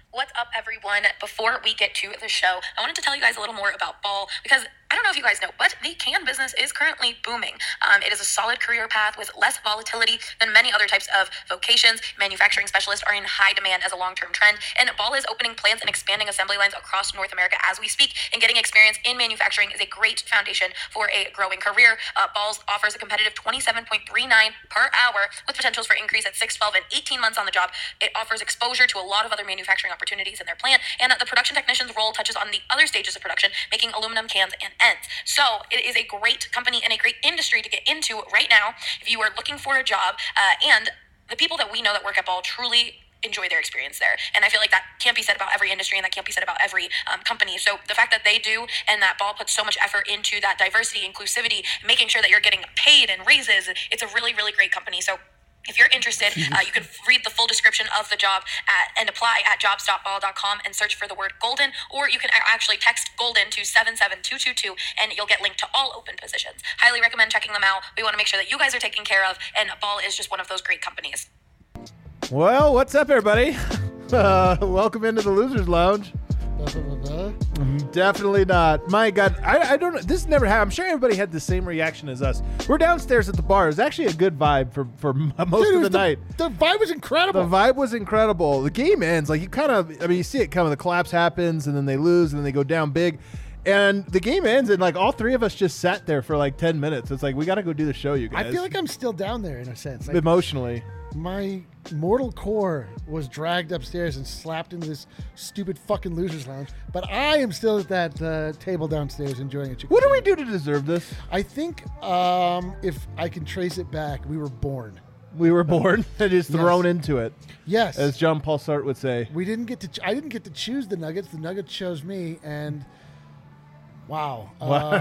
What's up, everyone? Before we get to the show, I wanted to tell you guys a little more about Ball because I don't know if you guys know, but the can business is currently booming. It is a solid career path with less volatility than many other types of vocations. Manufacturing specialists are in high demand as a long-term trend, and Ball is opening plants and expanding assembly lines across North America as we speak, and getting experience in manufacturing is a great foundation for a growing career. Balls offers a competitive 27.39 per hour with potentials for increase at 6, 12, and 18 months on the job. It offers exposure to a lot of other manufacturing opportunities in their plant, and the production technician's role touches on the other stages of production, making aluminum cans and ends. So it is a great company and a great industry to get into right now if you are looking for a job. And the people that we know that work at Ball truly enjoy their experience there. And I feel like that can't be said about every industry, and that can't be said about every company. So the fact that they do, and that Ball puts so much effort into that diversity, inclusivity, making sure that you're getting paid and raises, it's a really, really great company. So if you're interested, you can read the full description of the job and apply at jobs.ball.com and search for the word golden, or you can actually text golden to 77222 and you'll get linked to all open positions. Highly recommend checking them out. We want to make sure that you guys are taken care of, and Ball is just one of those great companies. Well, what's up, everybody? Welcome into the Losers Lounge. Definitely not. My God, I don't know. This never happened. I'm sure everybody had the same reaction as us. We're downstairs at the bar. It was actually a good vibe for most of the night. The vibe was incredible. The vibe was incredible. The game ends. Like, you see it coming. The collapse happens, and then they lose, and then they go down big. And the game ends, and like all three of us just sat there for like 10 minutes. It's like, we got to go do the show, you guys. I feel like I'm still down there in a sense. Like, emotionally. My mortal core was dragged upstairs and slapped into this stupid fucking Losers Lounge. But I am still at that table downstairs enjoying it. What do we do to deserve this? I think if I can trace it back, we were born. We were born and just thrown into it. Yes. As John Paul Sartre would say. I didn't get to choose the Nuggets. The Nuggets chose me, and wow.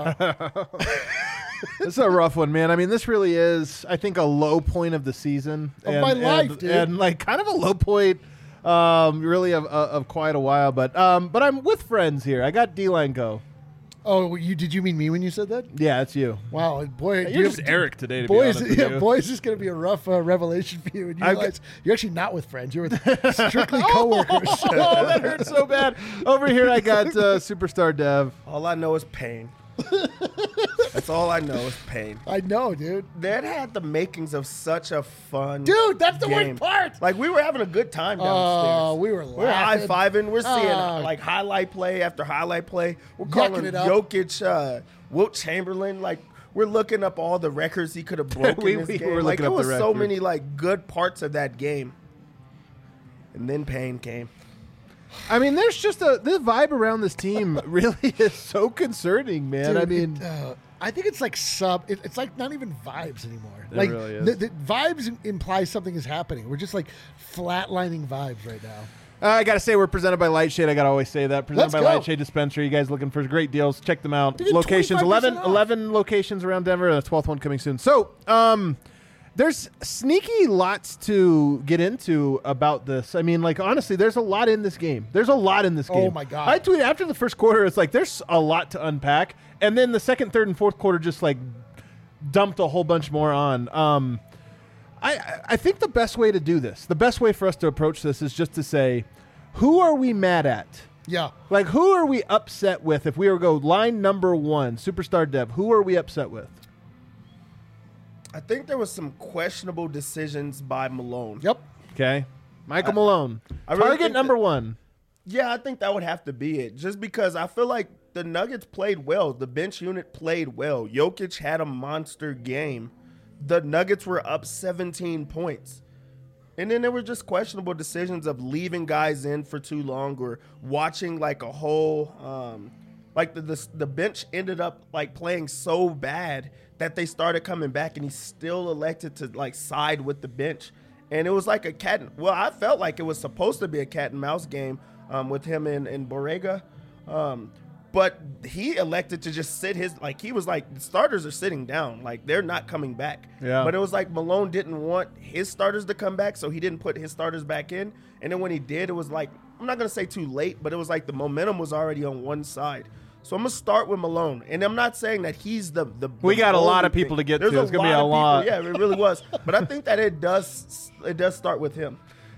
It's a rough one, man. I mean, this really is, I think, a low point of the season. Of my life, dude. And like kind of a low point really of quite a while. But I'm with friends here. I got D-Line Go. Oh, did you mean me when you said that? Yeah, it's you. Wow, boy, you're just Eric today. To boy, be honest with you. Boy, is this going to be a rough revelation for you. And you realize you're actually not with friends. You're with strictly coworkers. Oh, that hurts so bad. Over here, I got Superstar Dev. All I know is pain. That's all I know is pain. I know, dude. That had the makings of such a fun Dude, that's the game. worst part. Like, we were having a good time downstairs. Oh, we were laughing. We're high-fiving. We're seeing, like, highlight play after highlight play. We're calling it up. Jokic, Wilt Chamberlain. Like, we're looking up all the records he could have broken in this game. Were Like, looking there up was the so records. many, like, good parts of that game. And then pain came. I mean, there's just the vibe around this team really is so concerning, man. Dude, I mean, I think it's like it's like not even vibes anymore. It like really is. The vibes imply something is happening. We're just like flatlining vibes right now. I got to say, we're presented by Lightshade. I got to always say that. Presented Let's by go. Lightshade Dispensary. You guys looking for great deals, check them out. You get Locations, 25% off. 11 locations around Denver, and a 12th one coming soon. So, there's sneaky lots to get into about this. I mean, like, honestly, there's a lot in this game. There's a lot in this game. Oh, my God. I tweeted after the first quarter, it's like, there's a lot to unpack. And then the second, third, and fourth quarter just, like, dumped a whole bunch more on. I think the best way to do this, the best way for us to approach this is just to say, who are we mad at? Yeah. Like, who are we upset with? If we were to go line number one, Superstar Dev, who are we upset with? I think there was some questionable decisions by Malone. Yep. Okay. Michael Malone. I really Target think number one. Yeah, I think that would have to be it. Just because I feel like the Nuggets played well. The bench unit played well. Jokic had a monster game. The Nuggets were up 17 points. And then there were just questionable decisions of leaving guys in for too long or watching like a whole like the bench ended up like playing so bad that they started coming back, and he still elected to like side with the bench. And it was like I felt like it was supposed to be a cat and mouse game with him and Borrega. But he elected to just sit he was like, the starters are sitting down. Like, they're not coming back. Yeah. But it was like Malone didn't want his starters to come back, so he didn't put his starters back in. And then when he did, it was like, I'm not going to say too late, but it was like the momentum was already on one side. So I'm going to start with Malone. And I'm not saying that he's the We got a lot only of people thing. to get There's to. It's going to be a lot. Yeah, it really was. But I think that it does start with him.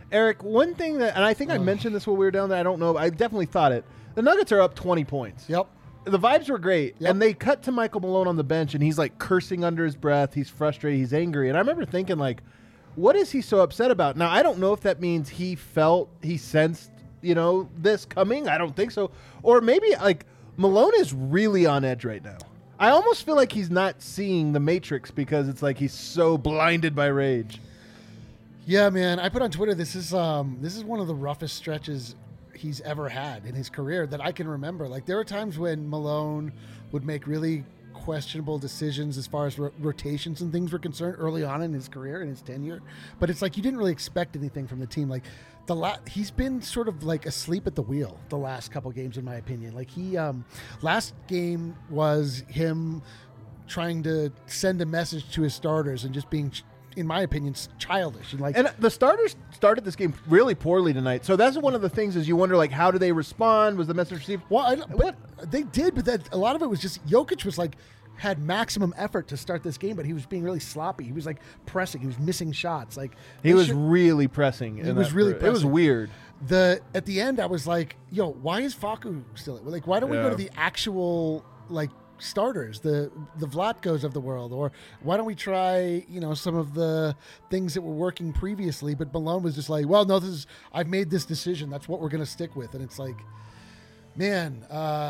Eric, one thing that, and I think I mentioned this when we were down there, I don't know, I definitely thought it. The Nuggets are up 20 points. Yep. The vibes were great, Yep. and they cut to Michael Malone on the bench, and he's like cursing under his breath. He's frustrated. He's angry. And I remember thinking, like, what is he so upset about? Now, I don't know if that means he sensed, this coming. I don't think so. Or maybe, like, Malone is really on edge right now. I almost feel like he's not seeing the Matrix because it's like he's so blinded by rage. Yeah, man. I put on Twitter, this is one of the roughest stretches he's ever had in his career that I can remember. Like, there were times when Malone would make really questionable decisions as far as rotations and things were concerned early on in his career, in his tenure. But it's like you didn't really expect anything from the team. Like, he's been sort of like asleep at the wheel the last couple games, in my opinion. Like, he last game was him trying to send a message to his starters and just being, in my opinion, childish. And the starters started this game really poorly tonight. So that's one of the things is you wonder, like, how do they respond? Was the message received? Well, but they did, but a lot of it was just Jokic was like, had maximum effort to start this game, but he was being really sloppy. He was like pressing. He was missing shots. Like, he was really pressing. It was weird. At the end, I was like, yo, why is Facu still? Like, why don't we go to the actual, like, starters, the Vlatko's of the world, or why don't we try some of the things that were working previously? But Malone was just like, well, no, I've made this decision, that's what we're gonna stick with. And it's like, man,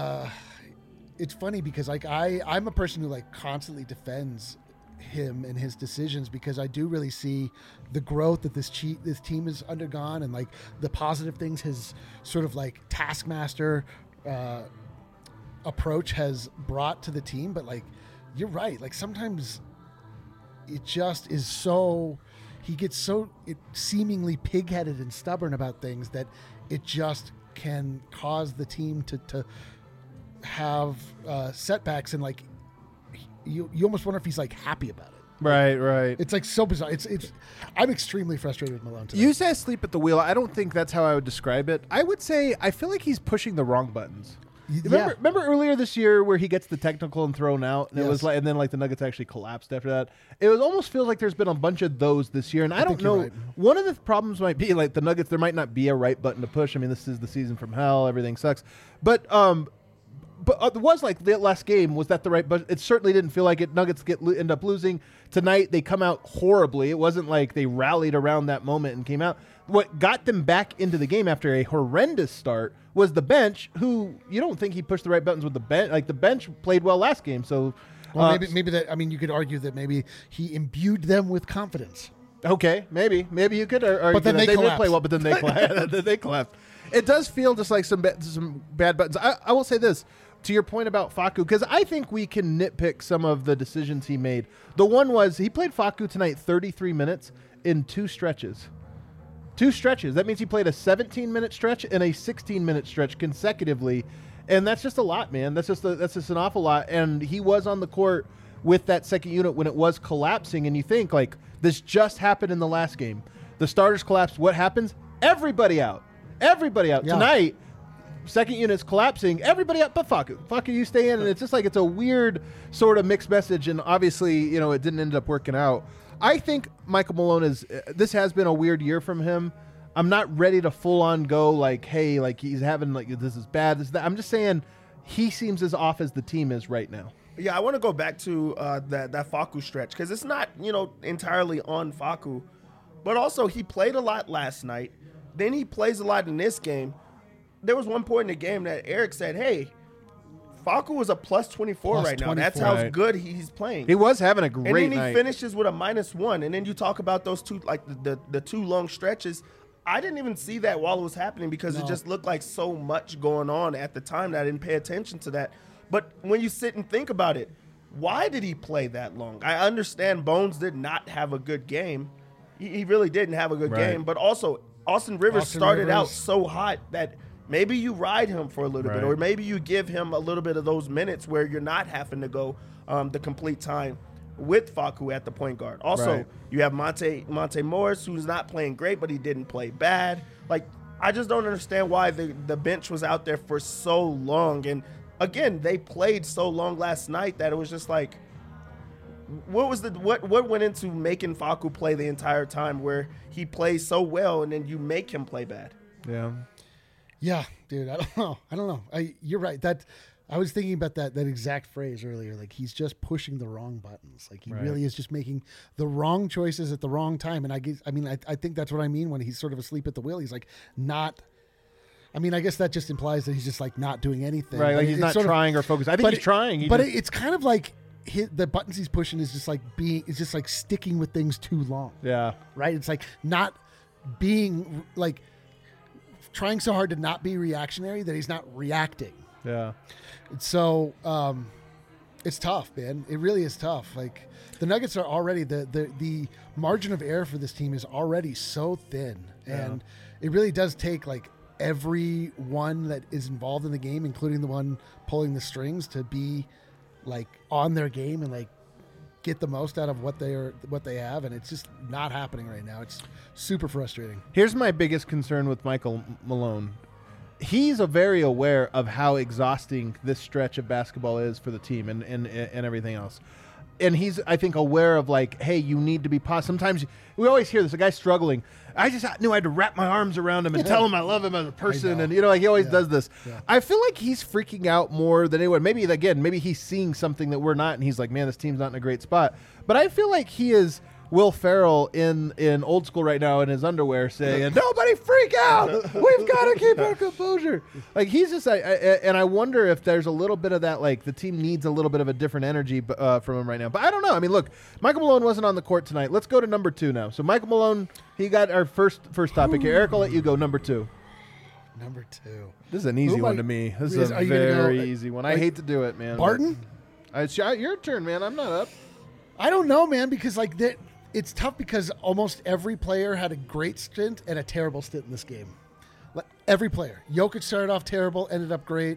it's funny because like I'm a person who like constantly defends him and his decisions because I do really see the growth that this team has undergone and like the positive things his sort of like taskmaster approach has brought to the team. But like, you're right, like sometimes it just is he gets so seemingly pig-headed and stubborn about things that it just can cause the team to have setbacks, and like you almost wonder if he's like happy about it. Right. It's like so bizarre. I'm extremely frustrated with Malone today. You say sleep at the wheel. I don't think that's how I would describe it. I would say I feel like he's pushing the wrong buttons. Remember earlier this year where he gets the technical and thrown out, and it was like, and then like the Nuggets actually collapsed after that. It almost feels like there's been a bunch of those this year, and I don't know. Right. One of the problems might be like the Nuggets. There might not be a right button to push. I mean, this is the season from hell. Everything sucks, but it was like the last game was that the right, but it certainly didn't feel like it. Nuggets end up losing tonight. They come out horribly. It wasn't like they rallied around that moment and came out. What got them back into the game after a horrendous start was the bench, who you don't think he pushed the right buttons with the bench. Like the bench played well last game. So, well, maybe that. I mean, you could argue that maybe he imbued them with confidence. Okay, maybe you could argue but then that they did play well, but then they collapsed. It does feel just like some bad buttons. I will say this. To your point about Facu, because I think we can nitpick some of the decisions he made. The one was he played Facu tonight 33 minutes in two stretches. That means he played a 17-minute stretch and a 16-minute stretch consecutively, and that's just a lot, man. That's just an awful lot. And he was on the court with that second unit when it was collapsing, and you think like this just happened in the last game. The starters collapsed. What happens? Everybody out. Yeah. Tonight. Second unit's collapsing. Everybody up but Facu, you stay in. And it's just like it's a weird sort of mixed message. And obviously, it didn't end up working out. I think Michael Malone this has been a weird year from him. I'm not ready to full on go like, hey, like he's having like this is bad. This is that. I'm just saying he seems as off as the team is right now. Yeah, I want to go back to that Facu stretch because it's not entirely on Facu, but also he played a lot last night. Then he plays a lot in this game. There was one point in the game that Eric said, hey, Facu was a plus 24 right now. That's how good he's playing. He was having a great night. And then he finishes with a -1. And then you talk about those two, like the two long stretches. I didn't even see that while it was happening because it just looked like so much going on at the time that I didn't pay attention to that. But when you sit and think about it, why did he play that long? I understand Bones did not have a good game. He really didn't have a good game. But also, Austin Rivers started out so hot that maybe you ride him for a little bit, or maybe you give him a little bit of those minutes where you're not having to go the complete time with Facu at the point guard. Also, you have Monte Morris, who's not playing great, but he didn't play bad. Like, I just don't understand why the bench was out there for so long. And again, they played so long last night that it was just like, What went into making Facu play the entire time where he plays so well and then you make him play bad? Yeah. Yeah, dude, I don't know. You're right. I was thinking about that exact phrase earlier. Like, he's just pushing the wrong buttons. Like, he really is just making the wrong choices at the wrong time. And I think that's what I mean when he's sort of asleep at the wheel. He's like not. I mean, I guess that just implies that he's just like not doing anything. Right, like he's not trying or focused. I think he's trying. It's kind of like the buttons he's pushing is just like sticking with things too long. Yeah. Right? It's like not being like trying so hard to not be reactionary that he's not reacting. Yeah. So it's tough, man. It really is tough. Like, the Nuggets are already the margin of error for this team is already so thin, and it really does take like everyone that is involved in the game, including the one pulling the strings, to be like on their game and like get the most out of what they have, and it's just not happening right now. It's super frustrating. Here's my biggest concern with Michael Malone. He's very aware of how exhausting this stretch of basketball is for the team and everything else. And he's, I think, aware of like, hey, you need to be positive. Sometimes we always hear this, a guy struggling. I just knew I had to wrap my arms around him and tell him I love him as a person. And, like he always does this. Yeah. I feel like he's freaking out more than anyone. Maybe he's seeing something that we're not. And he's like, man, this team's not in a great spot. But I feel like he is Will Ferrell in Old School right now in his underwear saying, nobody freak out. We've got to keep our composure. Like, he's just, and I wonder if there's a little bit of that, like the team needs a little bit of a different energy from him right now. But I don't know. I mean, look, Michael Malone wasn't on the court tonight. Let's go to number 2 now. So Michael Malone, he got our first topic here. Eric, I'll let you go. Number 2. Number 2. This is an easy one to me. This is a very easy one. I hate to do it, man. Barton? It's your turn, man. I'm not up. I don't know, man, because like that. It's tough because almost every player had a great stint and a terrible stint in this game. Like, every player. Jokic started off terrible, ended up great.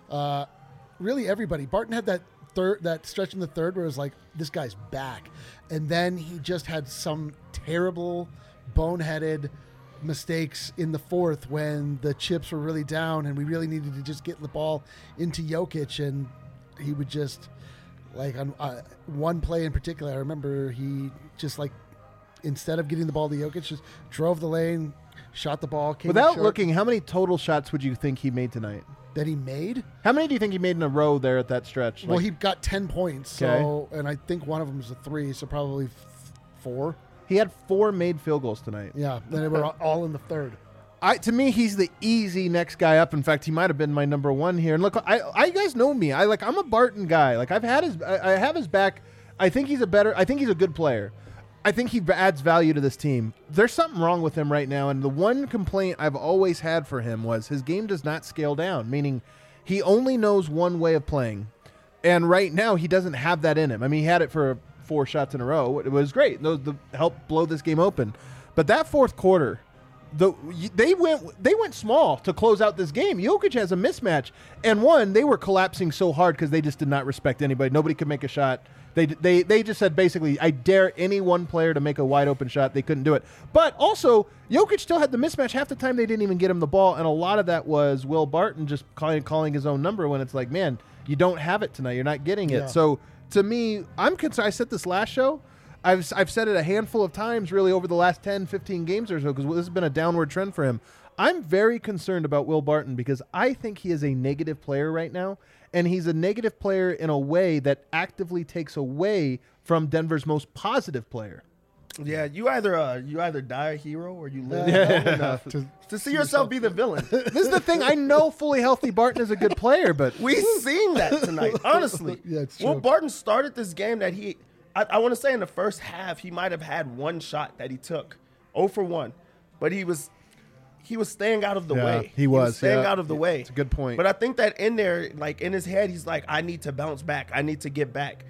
Really everybody. Barton had that stretch in the third where it was like, this guy's back. And then he just had some terrible, boneheaded mistakes in the fourth when the chips were really down and we really needed to just get the ball into Jokic, and he would just... Like, on one play in particular, I remember he just, like, instead of getting the ball to Jokic, just drove the lane, shot the ball. Without looking, how many total shots would you think he made tonight? That he made? How many do you think he made in a row there at that stretch? Well, he got 10 points, and I think one of them was a 3, so probably 4. He had 4 made field goals tonight. Yeah, and they were all in the third. To me, he's the easy next guy up. In fact, he might have been my number 1 here. And look, I guys know me. I'm a Barton guy. Like, I have his back. I think he's a good player. I think he adds value to this team. There's something wrong with him right now, and the one complaint I've always had for him was his game does not scale down, meaning he only knows one way of playing. And right now, he doesn't have that in him. I mean, he had it for 4 shots in a row. It was great. Those helped blow this game open. But that fourth quarter, they went small to close out this game. Jokic has a mismatch, and they were collapsing so hard because they just did not respect anybody. Nobody could make a shot. They just said basically, I dare any one player to make a wide open shot. They couldn't do it. But also, Jokic still had the mismatch. Half the time they didn't even get him the ball, and a lot of that was Will Barton just calling his own number when it's like, man, you don't have it tonight. You're not getting it. Yeah. So to me, I'm concerned. I said this last show. I've said it a handful of times really over the last 10, 15 games or so because this has been a downward trend for him. I'm very concerned about Will Barton because I think he is a negative player right now, and he's a negative player in a way that actively takes away from Denver's most positive player. Yeah, you either die a hero or you live long enough to see yourself be the villain. This is the thing. I know fully healthy Barton is a good player, but we've seen that tonight, honestly. Yeah, it's true. Well, Barton started this game that I want to say in the first half, he might have had 1 shot that he took, 0 for 1, but he was staying out of the way. He was staying out of the way. It's a good point. But I think that in there, like in his head, he's like, I need to bounce back. I need to get back.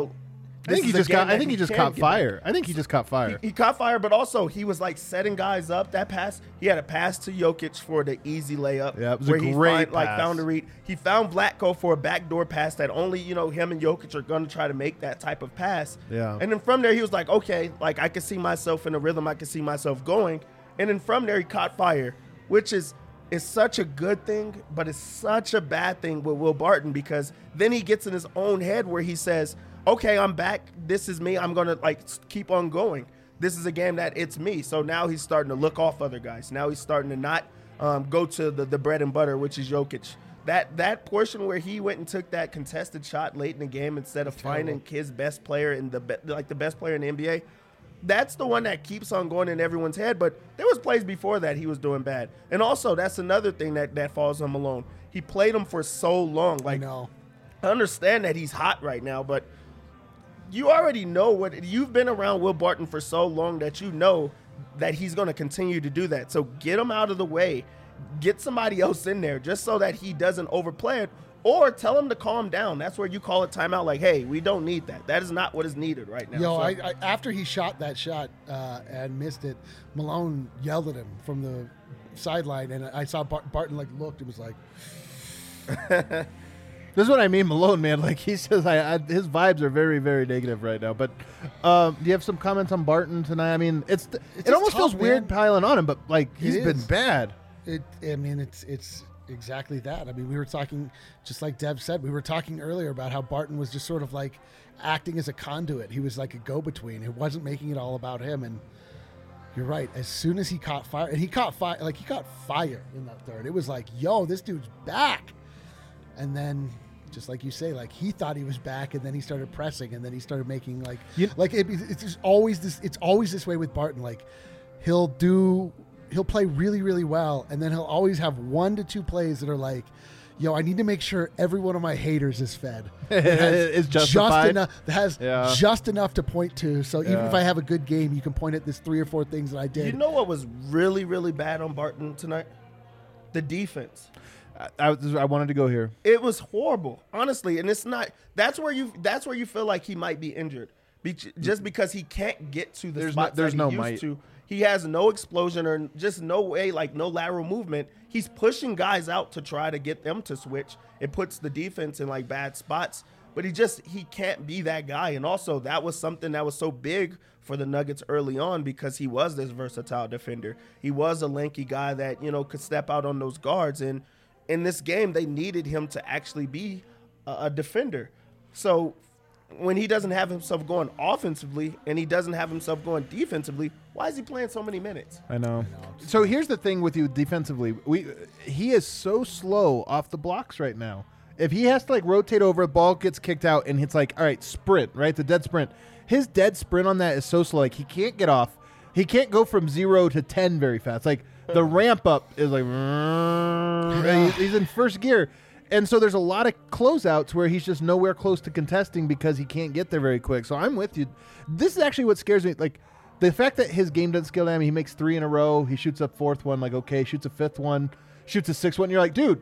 I think he just caught fire. I think he just caught fire. He caught fire, but also he was like setting guys up. That pass, he had a pass to Jokic for the easy layup. Yeah, it was a great pass. Found a read. He found Vlatko for a backdoor pass that only him and Jokic are going to try to make that type of pass. Yeah. And then from there he was like, okay, like I can see myself in a rhythm. I can see myself going. And then from there he caught fire, which is such a good thing, but it's such a bad thing with Will Barton because then he gets in his own head where he says, okay, I'm back. This is me. I'm going to like keep on going. This is a game that it's me. So now he's starting to look off other guys. Now he's starting to not go to the bread and butter, which is Jokic. That portion where he went and took that contested shot late in the game instead of finding his best player in the best player in the NBA, that's the one that keeps on going in everyone's head. But there was plays before that he was doing bad. And also, that's another thing that falls on Malone. He played him for so long. Like, I understand that he's hot right now, but you already know what – you've been around Will Barton for so long that you know that he's going to continue to do that. So get him out of the way. Get somebody else in there just so that he doesn't overplay it, or tell him to calm down. That's where you call it timeout. Like, hey, we don't need that. That is not what is needed right now. I after he shot that shot and missed it, Malone yelled at him from the sideline, and I saw Barton like looked and was like, This is what I mean, Malone, man. Like he says, his vibes are very, very negative right now. But do you have some comments on Barton tonight? I mean, it almost feels weird piling on him, but like he's been bad. It's exactly that. I mean, we were talking, just like Dev said, we were talking earlier about how Barton was just sort of like acting as a conduit. He was like a go-between. It wasn't making it all about him. And you're right. As soon as he caught fire, and he caught fire in that third. It was like, yo, this dude's back. And then, just like you say, like he thought he was back, and then he started pressing, and then he started making it's just always this. It's always this way with Barton. Like he'll play really, really well, and then he'll always have 1 to 2 plays that are like, yo, I need to make sure every one of my haters is fed. It's justified. Just enough to point to. So even if I have a good game, you can point at this 3 or 4 things that I did. You know what was really, really bad on Barton tonight? The defense. I wanted to go here. It was horrible, honestly, and it's not. That's where you feel like he might be injured, just because he can't get to the spot that he used to. He has no explosion or just no way, like no lateral movement. He's pushing guys out to try to get them to switch. It puts the defense in like bad spots, but he can't be that guy. And also that was something that was so big for the Nuggets early on because he was this versatile defender. He was a lanky guy that, could step out on those guards. And in this game, they needed him to actually be a defender. So when he doesn't have himself going offensively and he doesn't have himself going defensively, why is he playing so many minutes? I know. So here's the thing with you defensively. He is so slow off the blocks right now. If he has to like rotate over, the ball gets kicked out and it's like, all right, sprint, right? The dead sprint. His dead sprint on that is so slow. Like he can't get off. He can't go from 0 to 10 very fast. Like the ramp up is like, he's in first gear. And so there's a lot of closeouts where he's just nowhere close to contesting because he can't get there very quick. So I'm with you. This is actually what scares me. Like the fact that his game doesn't scale down. He makes 3 in a row. He shoots a 4th one. Like, okay, shoots a 5th one, shoots a 6th one. You're like, dude,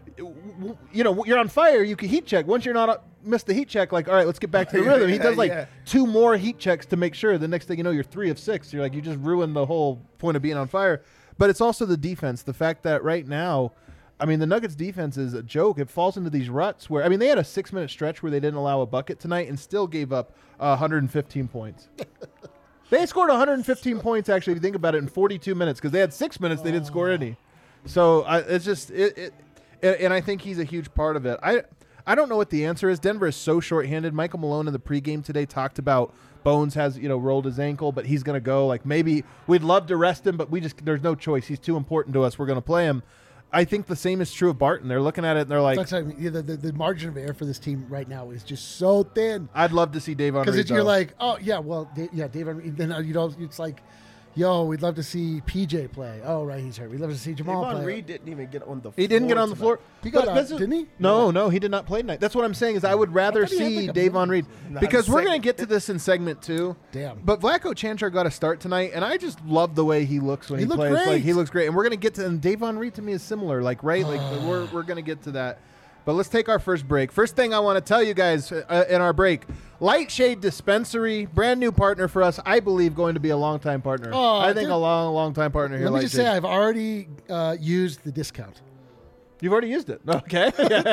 you're on fire. You can heat check. Once you're not missed the heat check, like, all right, let's get back to the rhythm. He does 2 more heat checks to make sure. The next thing you know, you're 3 of 6. You're like, you just ruined the whole point of being on fire. But it's also the defense. The fact that right now, I mean, the Nuggets defense is a joke. It falls into these ruts where, I mean, they had a 6-minute stretch where they didn't allow a bucket tonight and still gave up 115 points. They scored 115 points, actually, if you think about it, in 42 minutes because they had 6 minutes, they didn't score any. So it's just, and I think he's a huge part of it. I don't know what the answer is. Denver is so shorthanded. Michael Malone in the pregame today talked about Bones has, rolled his ankle, but he's going to go. Like maybe we'd love to rest him, but there's no choice. He's too important to us. We're going to play him. I think the same is true of Barton. They're looking at it and they're like, the margin of error for this team right now is just so thin. I'd love to see Davon Reed. Because you're like, oh yeah, well, Davon Reed. Then it's like, yo, we'd love to see PJ play. Oh right, he's hurt. We'd love to see Jamal play. Davon Reed didn't even get on the floor. He didn't get on the floor. He got didn't he? No, he did not play tonight. That's what I'm saying is I would rather see Davon Reed because we're going to get to this in segment 2. Damn. But Vlatko Čančar got a start tonight, and I just love the way he looks when he plays. Great. Like he looks great, and we're going to get to. And Davon Reed to me is similar. Like we're going to get to that. But let's take our first break. First thing I want to tell you guys in our break, Lightshade Dispensary, brand new partner for us. I believe going to be a long-time partner. I think a long-time partner here. Let me just say I've already used the discount. You've already used it. Okay.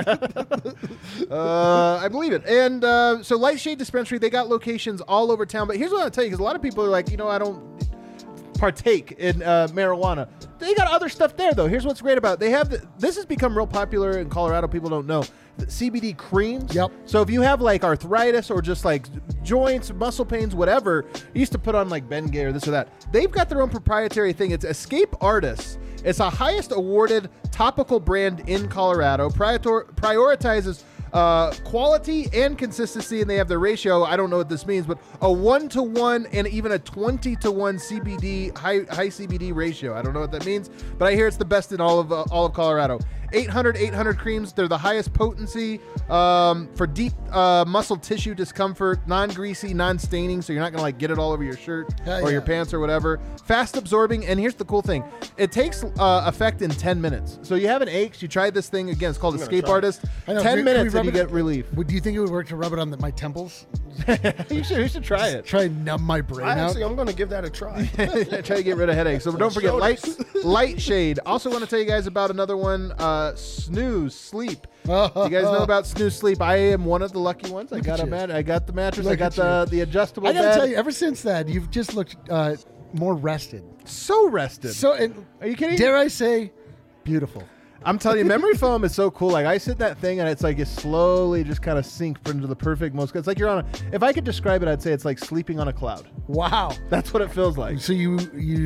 I believe it. And so Lightshade Dispensary, they got locations all over town. But here's what I'll tell you, because a lot of people are like, part partake in marijuana. They got other stuff there, though. Here's what's great about it. They have this has become real popular in Colorado. People don't know. The CBD creams. Yep. So if you have like arthritis or just like joints, muscle pains, whatever, you used to put on like Bengay or this or that. They've got their own proprietary thing. It's Escape Artists. It's a highest awarded topical brand in Colorado. Prioritizes quality and consistency, and they have the ratio. I don't know what this means, but a 1-to-1 and even a 20-to-1 CBD high CBD ratio. I don't know what that means, but I hear it's the best in all of Colorado. 800 creams. They're the highest potency for deep muscle tissue discomfort, non-greasy, non-staining, so you're not gonna like get it all over your shirt or your pants or whatever. Fast absorbing, and here's the cool thing: it takes effect in 10 minutes. So you have an ache, you try this thing again. It's called Escape Artist. 10 minutes and you get relief. Do you think it would work to rub it on my temples? You should try it. Try and numb my brain out. I'm going to give that a try. Try to get rid of headaches. So don't forget light shade. Also want to tell you guys about another one, Snooze Sleep. Do you guys know about Snooze Sleep? I am one of the lucky ones. I got the mattress. I got the adjustable bed. I gotta tell you, ever since that, you've just looked more rested. So rested. Are you kidding? Dare I say, beautiful. I'm telling you, memory foam is so cool. Like I sit in that thing and it's like you slowly just kind of sink into the perfect most. It's like you're on if I could describe it, I'd say it's like sleeping on a cloud. Wow. That's what it feels like. So you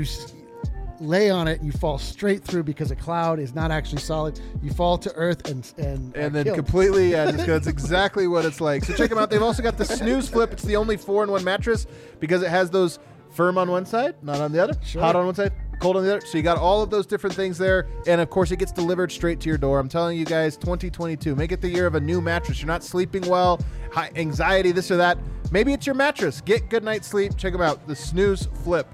lay on it, you fall straight through because a cloud is not actually solid. You fall to earth and then killed. completely, that's exactly what it's like. So check them out. They've also got the Snooze Flip. It's the only 4-in-1 mattress because it has those firm on one side, not on the other, hot on one side, cold on the other. So you got all of those different things there. And of course, it gets delivered straight to your door. I'm telling you guys, 2022, make it the year of a new mattress. You're not sleeping well, high anxiety, this or that. Maybe it's your mattress. Get good night's sleep. Check them out. The Snooze Flip.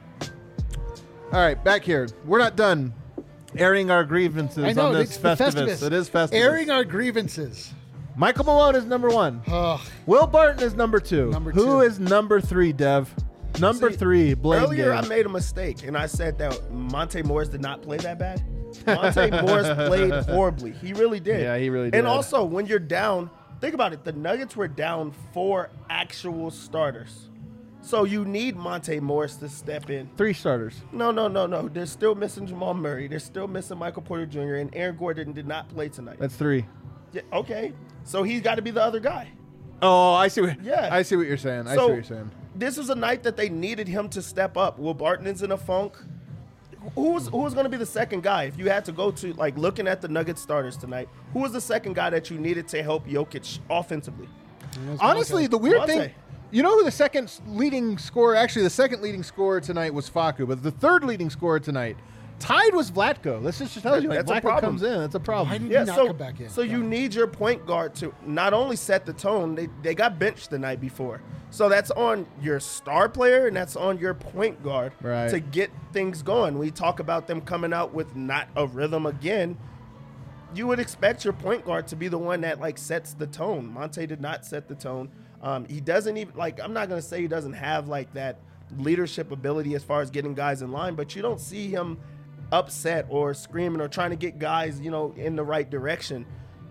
All right, back here. We're not done airing our grievances on this Festivus. It is Festivus. Airing our grievances. Michael Malone is number 1. Will Barton is number 2. Who is number 3, Dev? Number 3, Blame Earlier, Game. I made a mistake, and I said that Monte Morris did not play that bad. Monte Morris played horribly. He really did. Yeah, he really did. And also, when you're down, think about it. The Nuggets were down 4 actual starters. So you need Monte Morris to step in. 3 starters. No. They're still missing Jamal Murray. They're still missing Michael Porter Jr. And Aaron Gordon did not play tonight. That's 3. Yeah, okay. So he's got to be the other guy. Oh, I see what you're saying. I see So, what you're saying. This was a night that they needed him to step up. Will Barton is in a funk. Who was going to be the second guy? If you had to go to, like, looking at the Nuggets starters tonight, who was the second guy that you needed to help Jokic offensively? Honestly, the weird thing, you know who the second leading scorer tonight was Facu, but the third leading scorer tonight, tied was Vlatko. This just tells you, like, Vlatko comes in. That's a problem. Why did he not come back in? So you need your point guard to not only set the tone, they got benched the night before. So that's on your star player and that's on your point guard to get things going. We talk about them coming out with not a rhythm again. You would expect your point guard to be the one that, like, sets the tone. Monte did not set the tone. He doesn't even, like, I'm not going to say he doesn't have, like, that leadership ability as far as getting guys in line, but you don't see him upset or screaming or trying to get guys, in the right direction.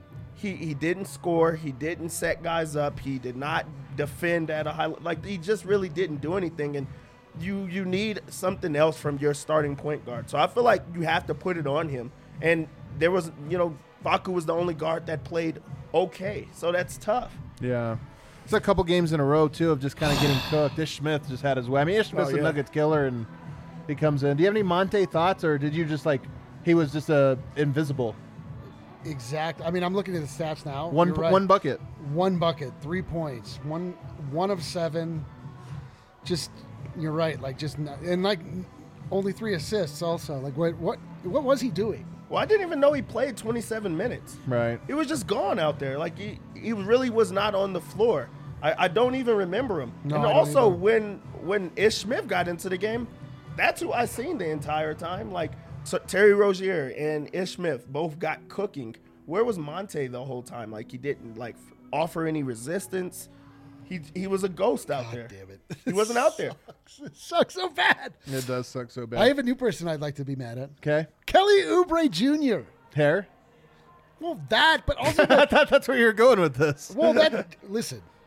He didn't score. He didn't set guys up. He did not defend at a high, like, he just really didn't do anything. And you need something else from your starting point guard. So I feel like you have to put it on him. And there was, Facu was the only guard that played okay. So that's tough. Yeah. It's a couple games in a row, too, of just kind of getting cooked. Ish Smith just had his way. I mean, Ish Smith's a Nuggets killer, and he comes in. Do you have any Monte thoughts, or did you just, like, he was just invisible? Exact. I mean, I'm looking at the stats now. One bucket. 1 bucket, 3 points, one of 7. Just, you're right. Like, just and like only 3 assists. Also, like, what was he doing? Well, I didn't even know he played 27 minutes. Right. He was just gone out there. Like, he really was not on the floor. I don't even remember him. No, and also, when Ish Smith got into the game, that's who I seen the entire time. Like, so Terry Rozier and Ish Smith both got cooking. Where was Monte the whole time? Like, he didn't, like, offer any resistance. He was a ghost out there. Damn it. He wasn't out there. It sucks so bad. It does suck so bad. I have a new person I'd like to be mad at. Okay. Kelly Oubre Jr. Hair? Well, that, but also I thought that's where you were going with this. well, listen,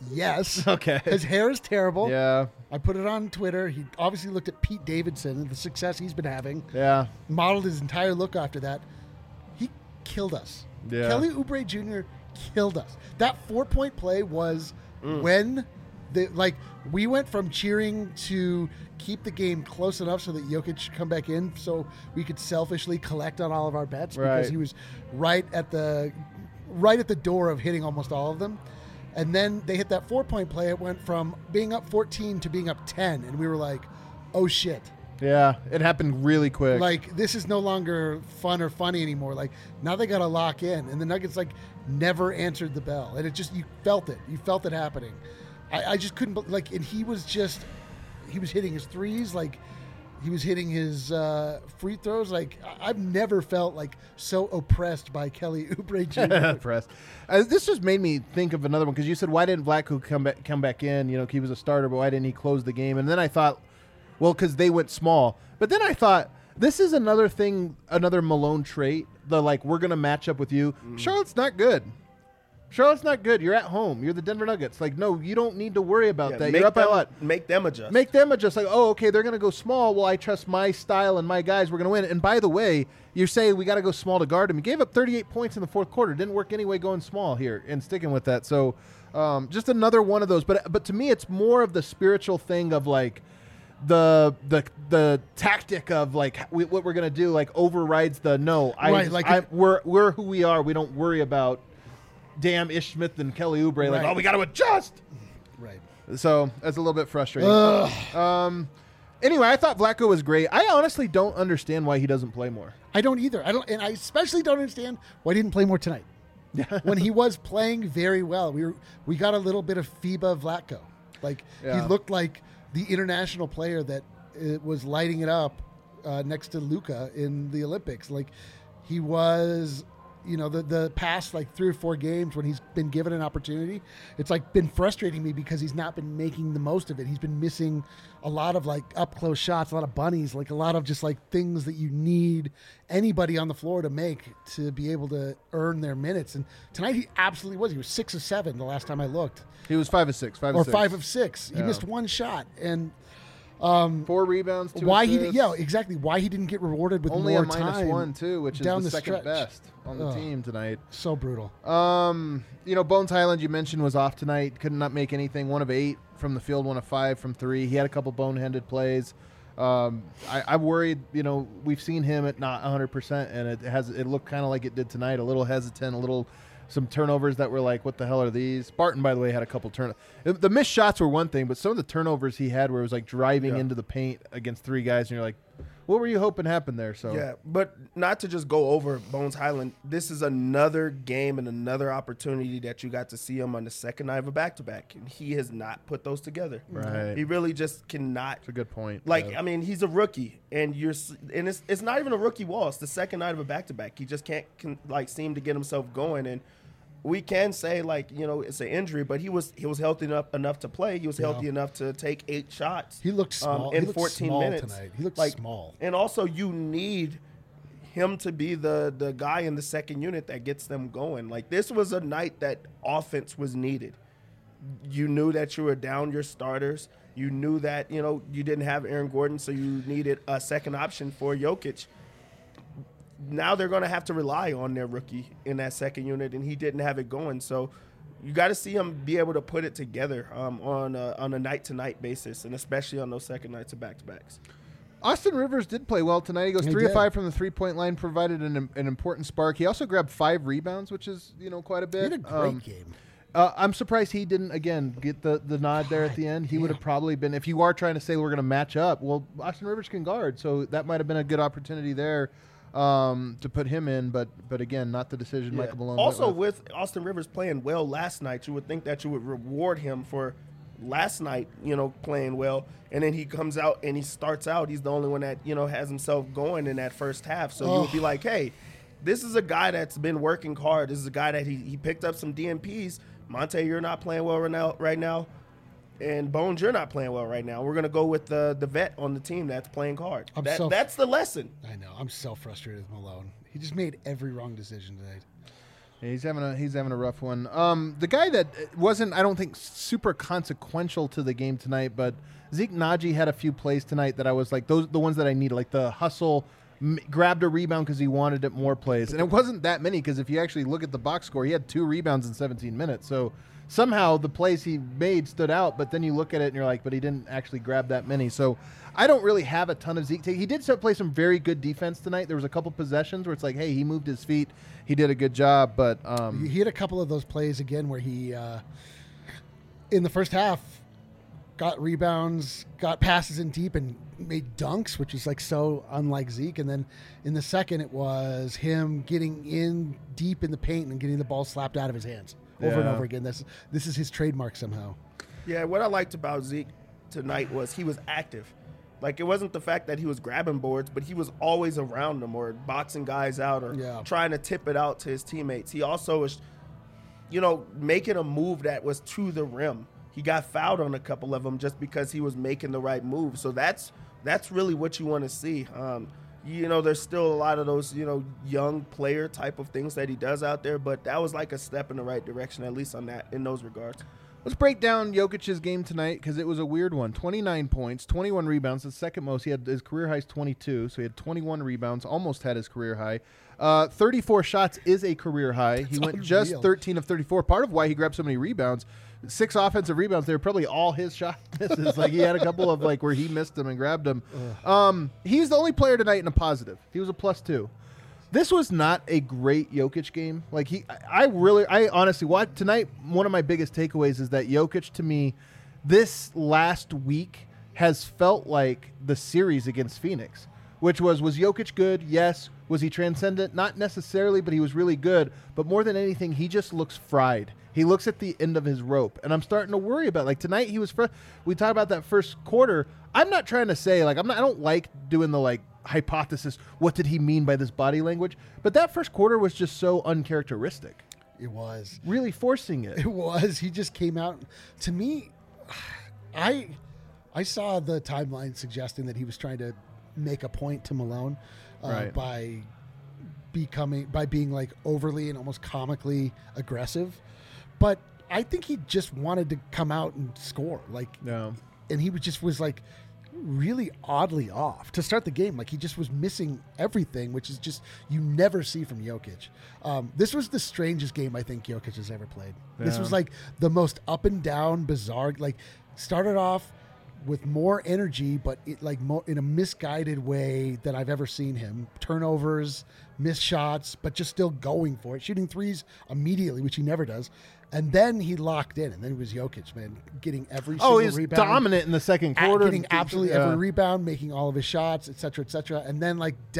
Yes. Okay. His hair is terrible. Yeah. I put it on Twitter. He obviously looked at Pete Davidson and the success he's been having. Yeah. Modeled his entire look after that. He killed us. Yeah. Kelly Oubre Jr. killed us. That 4-point play was when we went from cheering to keep the game close enough so that Jokic should come back in so we could selfishly collect on all of our bets because he was right at the door of hitting almost all of them. And then they hit that 4-point play. It went from being up 14 to being up 10. And we were like, oh, shit. Yeah, it happened really quick. Like, this is no longer fun or funny anymore. Like, now they got to lock in. And the Nuggets, never answered the bell. And it just, you felt it. You felt it happening. I just couldn't, and he was hitting his threes. He was hitting his free throws. I've never felt so oppressed by Kelly Oubre Jr. Oppressed. This just made me think of another one because you said, why didn't Vlatko come back in? He was a starter, but why didn't he close the game? And then I thought, well, because they went small. But then I thought, this is another thing, another Malone trait. We're going to match up with you. Charlotte's not good. Charlotte's not good. You're at home. You're the Denver Nuggets. No, you don't need to worry about that. You're up by a lot. Make them adjust. Make them adjust. Oh, okay, they're going to go small. Well, I trust my style and my guys. We're going to win. And by the way, you're saying we got to go small to guard him. He gave up 38 points in the fourth quarter. Didn't work anyway going small here and sticking with that. So just another one of those. But to me, it's more of the spiritual thing of the tactic of what we're going to do overrides the no. We're who we are. We don't worry about damn Ish Smith and Kelly Oubre. Right. We got to adjust. Right. So that's a little bit frustrating. Anyway, I thought Vlatko was great. I honestly don't understand why he doesn't play more. I don't either. And I especially don't understand why he didn't play more tonight. When he was playing very well, we got a little bit of FIBA Vlatko. He looked like the international player that was lighting it up next to Luka in the Olympics. He was. The past 3 or 4 games when he's been given an opportunity, it's been frustrating me because he's not been making the most of it. He's been missing a lot of up close shots, a lot of bunnies, a lot of just things that you need anybody on the floor to make to be able to earn their minutes. And tonight he absolutely was. He was 6 of 7 the last time I looked. He was 5 of 6. 5 of 6. He missed one shot and. 4 rebounds. 2 why assists. Exactly. Why he didn't get rewarded with only more a time? -1 too, which is the second stretch. best on the team tonight. So brutal. Bones Highland you mentioned was off tonight. Could not make anything. 1 of 8 from the field. 1 of 5 from 3. He had a couple boneheaded plays. I'm worried. We've seen him at not 100%, and it looked kind of like it did tonight. A little hesitant. Some turnovers that were what the hell are these? Barton, by the way, had a couple turnovers. The missed shots were one thing, but some of the turnovers he had where it was driving into the paint against 3 guys, and you're like, what were you hoping happened there? So yeah, but not to just go over Bones Highland. This is another game and another opportunity that you got to see him on the second night of a back-to-back, and he has not put those together. Right. He really just cannot. That's a good point. He's a rookie, and it's not even a rookie wall. It's the second night of a back-to-back. He just can't seem to get himself going, and we can say it's an injury, but he was healthy enough to play. He was healthy enough to take 8 shots. He looked small in he looked 14 small minutes tonight. He looked small. And also, you need him to be the guy in the second unit that gets them going. This was a night that offense was needed. You knew that you were down your starters. You knew that you didn't have Aaron Gordon, so you needed a second option for Jokic. Now they're going to have to rely on their rookie in that second unit, and he didn't have it going. So you got to see him be able to put it together on a night-to-night basis, and especially on those second nights of back-to-backs. Austin Rivers did play well tonight. He goes 3 of 5 from the 3-point line, provided an important spark. He also grabbed 5 rebounds, which is quite a bit. He had a great game. I'm surprised he didn't, again, get the nod there at the end. He would have probably been, if you are trying to say we're going to match up, well, Austin Rivers can guard, so that might have been a good opportunity there. To put him in, but again, not the decision Michael Malone. Also, with Austin Rivers playing well last night, you would think that you would reward him for last night, playing well, and then he comes out and he starts out. He's the only one that has himself going in that first half. So you would be like, hey, this is a guy that's been working hard. This is a guy that he picked up some DNPs. Monte, you're not playing well right now. And Bones, you're not playing well right now. We're going to go with the vet on the team that's playing hard. That's the lesson. I know. I'm so frustrated with Malone. He just made every wrong decision tonight. Yeah, he's having a rough one. The guy that wasn't, I don't think, super consequential to the game tonight, but Zeke Naji had a few plays tonight that I was like, those the ones that I needed, like the hustle, grabbed a rebound because he wanted it more plays, and it wasn't that many because if you actually look at the box score, he had 2 rebounds in 17 minutes. So somehow the plays he made stood out, but then you look at it and you're like, but he didn't actually grab that many. So I don't really have a ton of Zeke. He did play some very good defense tonight. There was a couple possessions where it's like, hey, he moved his feet. He did a good job, but he had a couple of those plays again where he, in the first half, got rebounds, got passes in deep, and made dunks, which is like so unlike Zeke. And then in the second, it was him getting in deep in the paint and getting the ball slapped out of his hands over and over again. This is his trademark somehow. Yeah, what I liked about Zeke tonight was he was active. Like, it wasn't the fact that he was grabbing boards, but he was always around them or boxing guys out or trying to tip it out to his teammates. He also was, making a move that was to the rim. He got fouled on a couple of them just because he was making the right move. So that's really what you want to see. There's still a lot of those, young player type of things that he does out there, but that was like a step in the right direction, at least in those regards. Let's break down Jokic's game tonight because it was a weird one. 29 points, 21 rebounds, the second most. He had his career high is 22, so he had 21 rebounds, almost had his career high. 34 shots is a career high. He went just 13 of 34. Part of why he grabbed so many rebounds, 6 offensive rebounds, they were probably all his shot misses. Like, he had a couple of where he missed them and grabbed them. He's the only player tonight in a positive. He was a +2. This was not a great Jokic game. I honestly watched tonight. One of my biggest takeaways is that Jokic, to me, this last week has felt like the series against Phoenix, which was Jokic good? Yes. Was he transcendent? Not necessarily, but he was really good. But more than anything, he just looks fried. He looks at the end of his rope, and I'm starting to worry about tonight. He was. We talk about that first quarter. I'm not trying to say I don't like doing the hypothesis. What did he mean by this body language? But that first quarter was just so uncharacteristic. It was really forcing it. It was. He just came out. To me, I saw the timeline suggesting that he was trying to make a point to Malone by being overly and almost comically aggressive. But I think he just wanted to come out and score. And he was really oddly off to start the game. He just was missing everything, which is just you never see from Jokic. This was the strangest game I think Jokic has ever played. Yeah. This was the most up and down, bizarre. Started off with more energy, but more in a misguided way than I've ever seen him. Turnovers, missed shots, but just still going for it, shooting threes immediately, which he never does. And then he locked in, and then it was Jokic, man, getting every single rebound. Oh, he's dominant in the second quarter. Getting absolutely every rebound, making all of his shots, et cetera, et cetera. And then,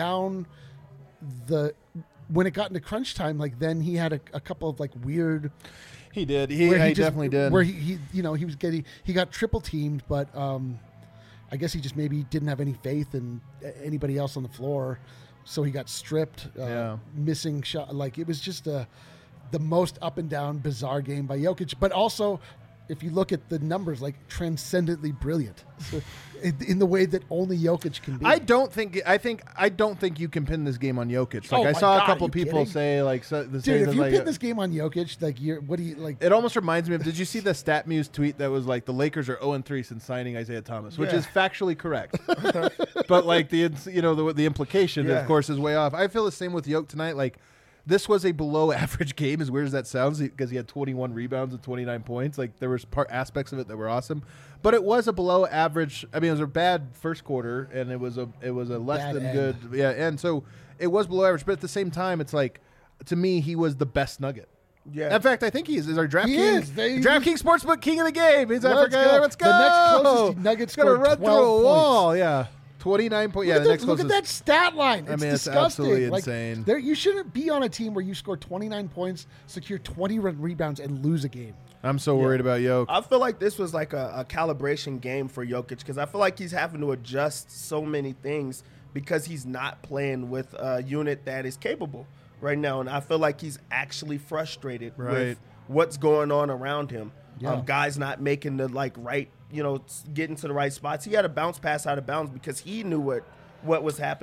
when it got into crunch time, then he had a couple of, weird... He did. He definitely did. Where he got triple teamed, but I guess he just maybe didn't have any faith in anybody else on the floor. So he got stripped, missing shot. It was just the most up and down, bizarre game by Jokic, but also, if you look at the numbers, transcendently brilliant in the way that only Jokic can be. I don't think you can pin this game on Jokic. I saw a couple people say dude, if you pin this game on Jokic, what do you It almost reminds me of. Did you see the StatMuse tweet that was the Lakers are 0-3 since signing Isaiah Thomas, which is factually correct, but the implication of course is way off. I feel the same with Jokic tonight. This was a below-average game, as weird as that sounds, because he had 21 rebounds and 29 points. There was aspects of it that were awesome, but it was a below-average. I mean, it was a bad first quarter, and it was a less bad than end. good. Yeah, and so it was below average. But at the same time, it's to me, he was the best Nugget. Yeah. In fact, I think he is our DraftKings Sportsbook king of the game. Let's go. The next closest Nuggets going to run through a wall. Points. Yeah. 29 points. Yeah, look at that stat line. It's it's disgusting. absolutely insane. You shouldn't be on a team where you score 29 points, secure 20 rebounds, and lose a game. I'm so worried about Jokic. I feel like this was a calibration game for Jokic because I feel like he's having to adjust so many things because he's not playing with a unit that is capable right now. And I feel like he's actually frustrated with what's going on around him. Yeah. Guys not making the right, getting to the right spots. He had a bounce pass out of bounds because he knew what was happening.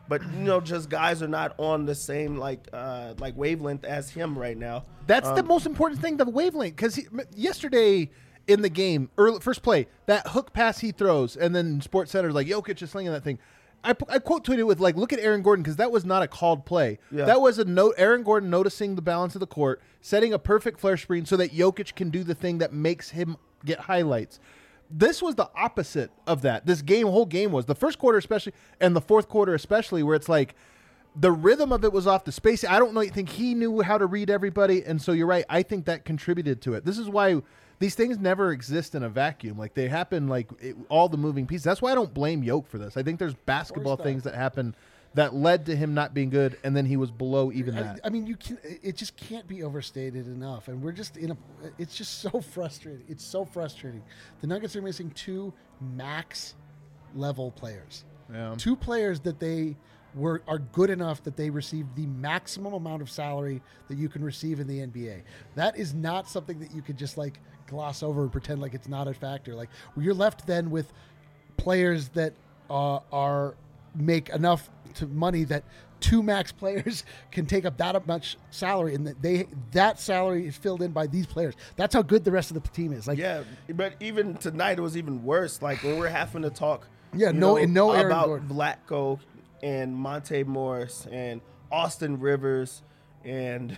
but just guys are not on the same like wavelength as him right now. That's the most important thing, the wavelength. Because yesterday in the game, first play, that hook pass he throws, and then Sports Center's like, Jokic is slinging that thing. I quote tweeted with look at Aaron Gordon, because that was not a called play. Yeah. That was Aaron Gordon noticing the balance of the court, setting a perfect flare screen so that Jokic can do the thing that makes him get highlights. This was the opposite of that. This whole game was the first quarter especially, and the fourth quarter especially, where it's like the rhythm of it was off. The space. I don't think he knew how to read everybody, and so you're right. I think that contributed to it. This is why these things never exist in a vacuum. Like they happen, all the moving pieces. That's why I don't blame Yoke for this. I think there's basketball things that happen that led to him not being good, and then he was below even that. I mean, it just can't be overstated enough, and we're just it's just so frustrating. It's so frustrating. The Nuggets are missing 2 max level players. Yeah. 2 players that are good enough that they receive the maximum amount of salary that you can receive in the NBA. That is not something that you could just gloss over and pretend like it's not a factor. You're left then with players that are make enough to money that 2 max players can take up that much salary, and that salary is filled in by these players. That's how good the rest of the team is. Yeah, but even tonight it was even worse. When we're having to talk, Aaron about Gordon. Vlatko and Monte Morris and Austin Rivers and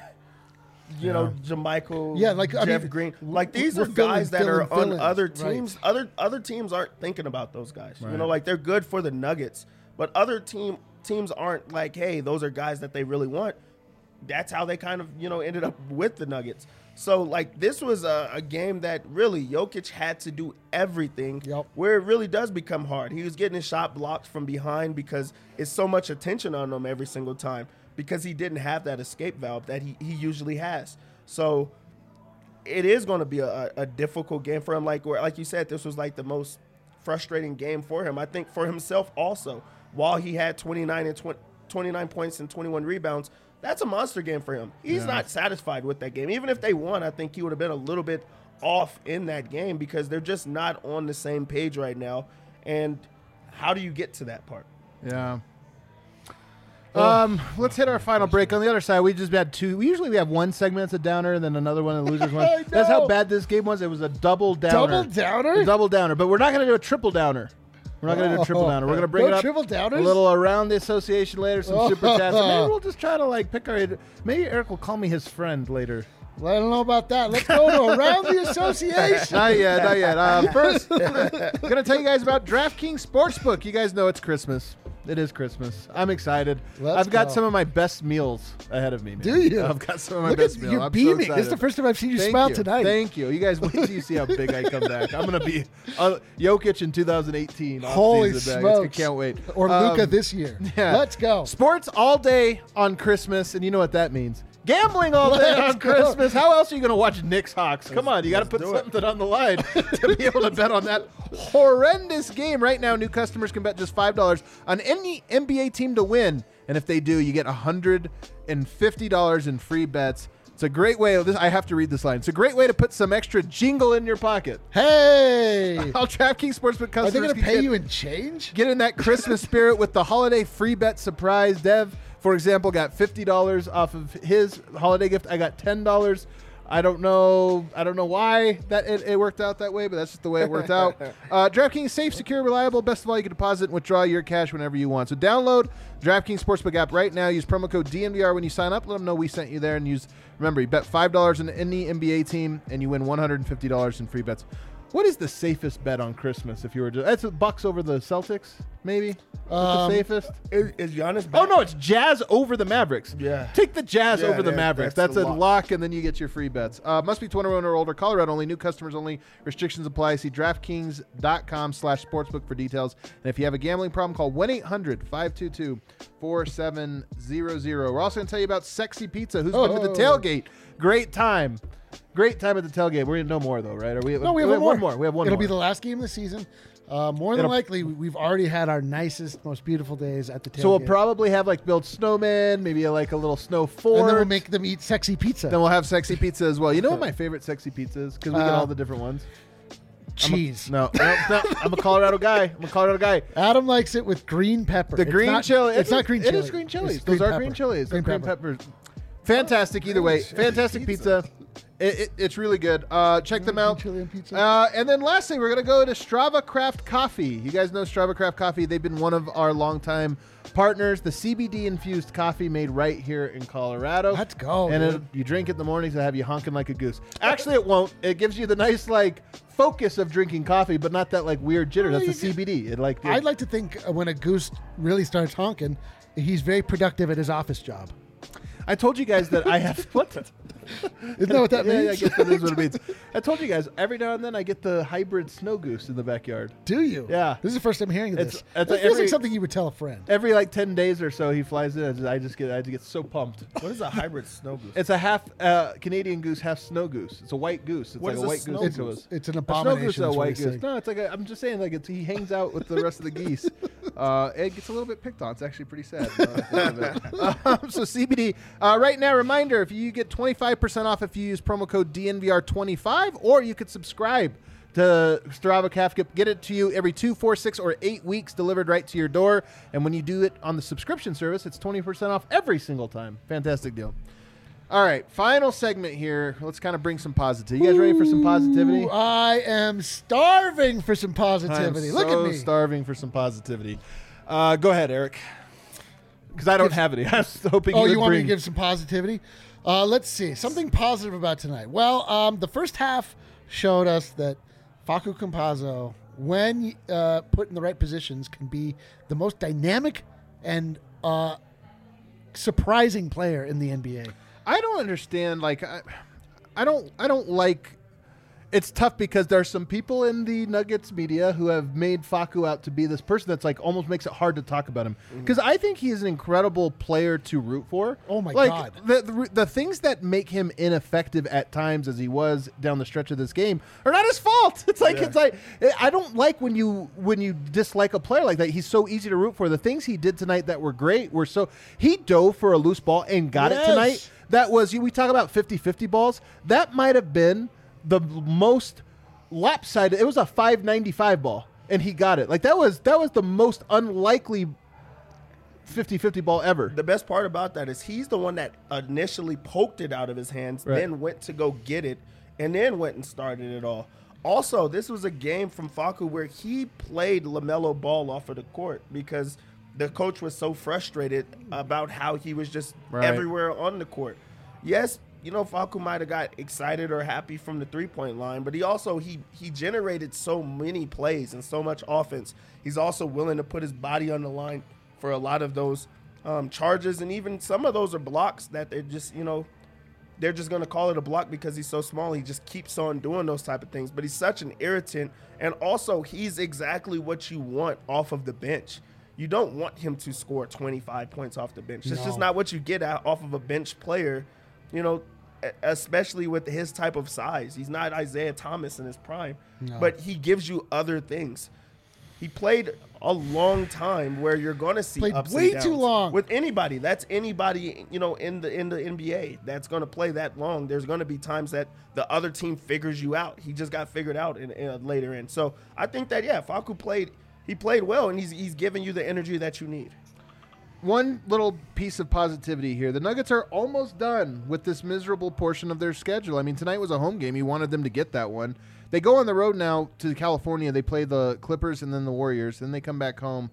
Jermichael, Jeff Green. These are guys that are on other teams. Right. Other teams aren't thinking about those guys. Right. They're good for the Nuggets, but other teams aren't hey, those are guys that they really want. That's how they kind of ended up with the Nuggets. So this was a game that really Jokic had to do everything. Yep. Where it really does become hard. He was getting his shot blocked from behind because it's so much attention on him every single time, because he didn't have that escape valve that he usually has. So it is going to be a difficult game for him. Like you said, this was the most frustrating game for him. I think for himself also. While he had 29 points and 21 rebounds, that's a monster game for him. He's not satisfied with that game. Even if they won, I think he would have been a little bit off in that game, because they're just not on the same page right now. And how do you get to that part? Yeah. Let's hit our final break. On the other side, we just had 2. We have one segment that's a downer, and then another one, a loser's one. That's how bad this game was. It was a double downer. Double downer? A double downer. But we're not going to do a triple downer. We're not going to do a triple downer. We're going to bring it up triple downers? a little around the association later, some super chats. Maybe we'll just try to pick our. Maybe Eric will call me his friend later. Well, I don't know about that. Let's go to around the association. Not yet. First, I'm going to tell you guys about DraftKings Sportsbook. You guys know it's Christmas. It is Christmas. I'm excited. I've got some of my best meals ahead of me, man. Do you? I've got some of my best meals. You're beaming. This is the first time I've seen you smile tonight. Thank you. You guys wait till you see how big I come back. I'm going to be Jokic in 2018. Holy smokes. I can't wait. Or Luka this year. Yeah. Let's go. Sports all day on Christmas, and you know what that means. Gambling all day on Christmas. How else are you going to watch Knicks Hawks? Come on, you got to put something on the line to be able to bet on that horrendous game. Right now, new customers can bet just $5 on any NBA team to win. And if they do, you get $150 in free bets. It's a great way. I have to read this line. It's a great way to put some extra jingle in your pocket. Hey! All DraftKings Sportsbook customers. Are they going to pay you in change? Get in that Christmas spirit with the holiday free bet surprise. Dev, for example, got $50 off of his holiday gift. I got $10. I don't know why that it worked out that way, but that's just the way it worked out. DraftKings, safe, secure, reliable. Best of all, you can deposit and withdraw your cash whenever you want. So download DraftKings Sportsbook app right now. Use promo code DNVR when you sign up. Let them know we sent you there. And remember, you bet $5 on any NBA team, and you win $150 in free bets. What is the safest bet on Christmas if you were to... That's Bucks over the Celtics, maybe? The safest? Is Giannis back? Oh, no, it's Jazz over the Mavericks. Yeah. Take the Jazz over the Mavericks. That's a lock. lock, and then you get your free bets. Must be 21 or older. Colorado only. New customers only. Restrictions apply. See DraftKings.com/sportsbook for details. And if you have a gambling problem, call 1-800-522-4700. We're also going to tell you about Sexy Pizza, who's been to the tailgate. Great time. Great time at the tailgate. We're going to know more, though, right? We have one more. We have one It'll more. be the last game of the season. More than likely, we've already had our nicest, most beautiful days at the tailgate. So we'll probably have build snowmen, maybe a little snow fort. And then we'll make them eat sexy pizza. Then we'll have sexy pizza as well. You know what my favorite sexy pizza is? Because we get all the different ones. cheese. No. I'm a Colorado guy. Adam likes it with green pepper. The It's green not- chili. It's not green chili. It is green chilies. It's Those are pepper. green chilies. They're Green green peppers. Fantastic either way. Fantastic pizza. It's really good. Check them out. Chili and pizza. And then lastly, we're going to go to Strava Craft Coffee. You guys know Strava Craft Coffee. They've been one of our longtime partners. The CBD-infused coffee made right here in Colorado. Let's go, And dude. you drink it in the mornings and have you honking like a goose. Actually, it won't. It gives you the nice, focus of drinking coffee, but not that, weird jitter. Well, That's the you CBD. I'd like to think when a goose really starts honking, he's very productive at his office job. I told you guys that I have... What? Isn't that what that Yeah, I means? guess that is what it means. I told you guys, every now and then I get the hybrid snow goose in the backyard. Do you? Yeah. This is the first time hearing of this. It's It feels like something you would tell a friend. Every 10 days or so he flies in. I just get so pumped. What is a hybrid snow goose? It's a half Canadian goose, half snow goose. It's a white goose. It's What like is a a white snow goose. goose? It's an A snow abomination. goose is a that's what white he's goose. saying. No, it's I'm just saying he hangs out with the rest of the geese. It gets a little bit picked on. It's actually pretty sad. So CBD. Right now, reminder, if you get 25% off if you use promo code DNVR25, or you could subscribe to Strava Craft. Get it to you every 2, 4, 6, or 8 weeks delivered right to your door. And when you do it on the subscription service, it's 20% off every single time. Fantastic deal. All right, final segment here. Let's kind of bring some positivity. You guys ready for some positivity? Ooh, I am starving for some positivity. I'm Look so at me. starving for some positivity. Go ahead, Eric. Because I don't have any. I was hoping Oh, you you would want me bring. to give some positivity? Let's see. Something positive about tonight. Well, the first half showed us that Facu Campazzo, when put in the right positions, can be the most dynamic and surprising player in the NBA. I don't understand. I don't like. It's tough because there are some people in the Nuggets media who have made Facu out to be this person that's almost makes it hard to talk about him. Because I think he is an incredible player to root for. Oh my God. The things that make him ineffective at times, as he was down the stretch of this game, are not his fault. It's like I don't like when you dislike a player like that. He's so easy to root for. The things he did tonight that were great were he dove for a loose ball and got it tonight. That was, we talk about 50-50 balls. That might have been the most lopsided. It was a 595 ball, and he got it. That was the most unlikely 50-50 ball ever. The best part about that is he's the one that initially poked it out of his hands, Right. then went to go get it, and then went and started it all. Also, this was a game from Facu where he played LaMelo Ball off of the court because the coach was so frustrated about how he was just Right. everywhere on the court. Yes, Facu might have got excited or happy from the three-point line, but he generated so many plays and so much offense. He's also willing to put his body on the line for a lot of those charges, and even some of those are blocks that they're just, they're just going to call it a block because he's so small. He just keeps on doing those type of things, but he's such an irritant, and also he's exactly what you want off of the bench. You don't want him to score 25 points off the bench. It's just not what you get off of a bench player, especially with his type of size. He's not Isaiah Thomas in his prime, but he gives you other things. He played a long time where you're going to see Played ups way and too downs. long. With anybody. That's anybody, in the NBA that's going to play that long. There's going to be times that the other team figures you out. He just got figured out in later in. So I think that, Facu played well, and he's giving you the energy that you need. One little piece of positivity here. The Nuggets are almost done with this miserable portion of their schedule. I mean, tonight was a home game. You wanted them to get that one. They go on the road now to California. They play the Clippers and then the Warriors. Then they come back home.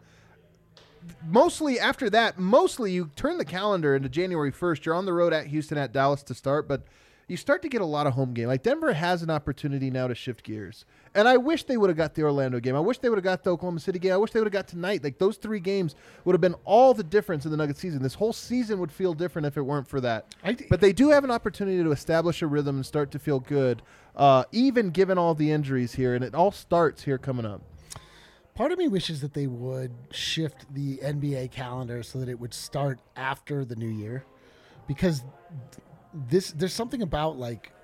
Mostly after that, you turn the calendar into January 1st. You're on the road at Houston, at Dallas to start, but you start to get a lot of home game. Denver has an opportunity now to shift gears. And I wish they would have got the Orlando game. I wish they would have got the Oklahoma City game. I wish they would have got tonight. Those 3 games would have been all the difference in the Nuggets season. This whole season would feel different if it weren't for that. But they do have an opportunity to establish a rhythm and start to feel good, even given all the injuries here. And it all starts here coming up. Part of me wishes that they would shift the NBA calendar so that it would start after the new year, because there's something about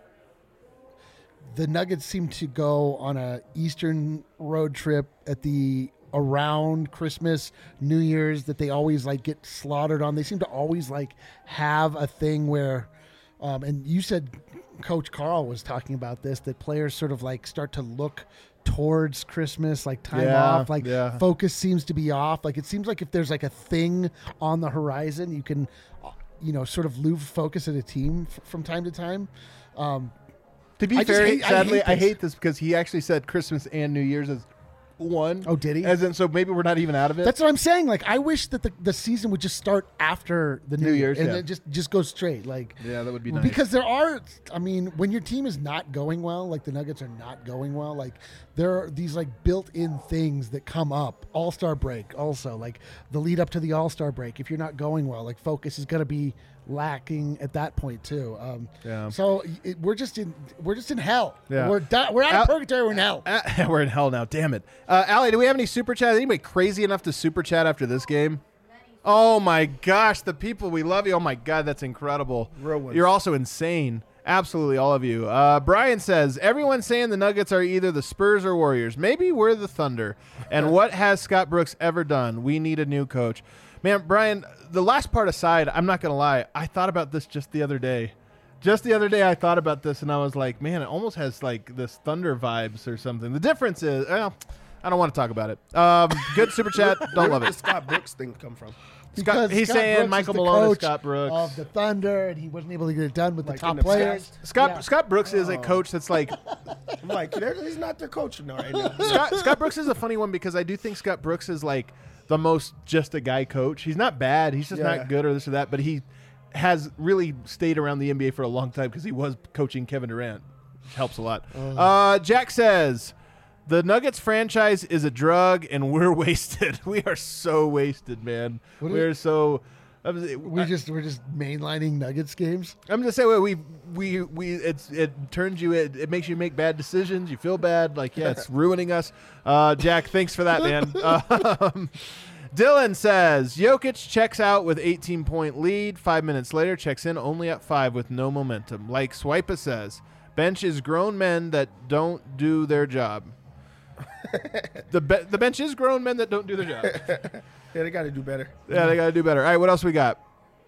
the Nuggets seem to go on a Eastern road trip at around Christmas, New Year's, that they always get slaughtered on. They seem to always have a thing where, and you said Coach Carl was talking about this, that players sort of start to look towards Christmas, like time Yeah, off, like yeah. focus seems to be off. Like it seems like if there's like a thing on the horizon, you can, sort of lose focus at a team from time to time. To be I just fair, hate- I sadly, hate I this. hate this because he actually said Christmas and New Year's as one. Oh, did he? As in, so maybe we're not even out of it. That's what I'm saying. Like I wish that the season would just start after the New Year's, and yeah. then just go straight. Like Yeah, that would be nice. Because there are, I mean, when your team is not going well, like the Nuggets are not going well, like there are these like built-in things that come up. All-Star break, also like the lead up to the All-Star break. If you're not going well, like focus is going to be lacking at that point too. Yeah. So we're just in hell. Yeah. We're out of purgatory. We're in hell. We're in hell now. Damn it, Allie. Do we have any super chat? Anybody crazy enough to super chat after this game? Oh my gosh, the people, we love you. Oh my God, that's incredible. Real ones. You're also insane. Absolutely, all of you. Brian says, everyone's saying the Nuggets are either the Spurs or Warriors. Maybe we're the Thunder. And what has Scott Brooks ever done? We need a new coach. Man, Brian, the last part aside, I'm not going to lie. I thought about this just the other day. Just the other day, I thought about this, and I was like, man, it almost has like this Thunder vibes or something. The difference is, well, I don't want to talk about it. Good super chat. Don't love Where did the it. Scott Brooks thing come from? Because He's Scott saying Brooks is Michael the Malone is coach Scott Brooks. of the Thunder, and he wasn't able to get it done with Like the top in the players. past? Scott Brooks is a coach that's like I'm like, he's not the coach right now. Scott Brooks is a funny one because I do think Scott Brooks is like the most just a guy coach. He's not bad. He's just Yeah. not good or this or that. But he has really stayed around the NBA for a long time because he was coaching Kevin Durant. Which helps a lot. Jack says the Nuggets franchise is a drug and we're wasted. We are so wasted, man. What We're is- so. We're just mainlining Nuggets games. I'm just saying it turns you it makes you make bad decisions. You feel bad, like yeah, it's ruining us. Jack, thanks for that, man. Dylan says Jokic checks out with 18-point lead. 5 minutes later, checks in only at 5 with no momentum. Like Swipa says, bench is grown men that don't do their job. The bench is grown men that don't do their job. Yeah, they got to do better. Yeah, they got to do better. All right, what else we got?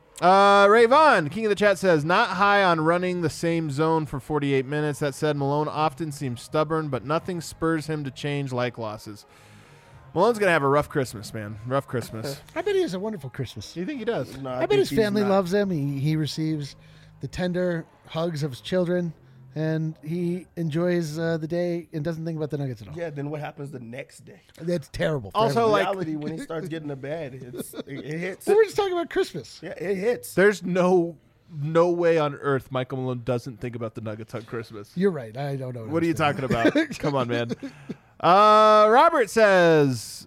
Ray Vaughn, King of the Chat, says, not high on running the same zone for 48 minutes. That said, Malone often seems stubborn, but nothing spurs him to change like losses. Malone's going to have a rough Christmas, man. Rough Christmas. I bet he has a wonderful Christmas. Do you think he does? No, I bet think his he's family not. loves him. He receives the tender hugs of his children, and he enjoys the day and doesn't think about the Nuggets at all. Yeah, then what happens the next day? That's terrible. for Also, everyone. like- Reality, when he starts getting to bed, it hits. we were just talking about Christmas. Yeah, it hits. There's no way on earth Michael Malone doesn't think about the Nuggets on Christmas. You're right. I don't know. What are you talking about? Come on, man. Robert says,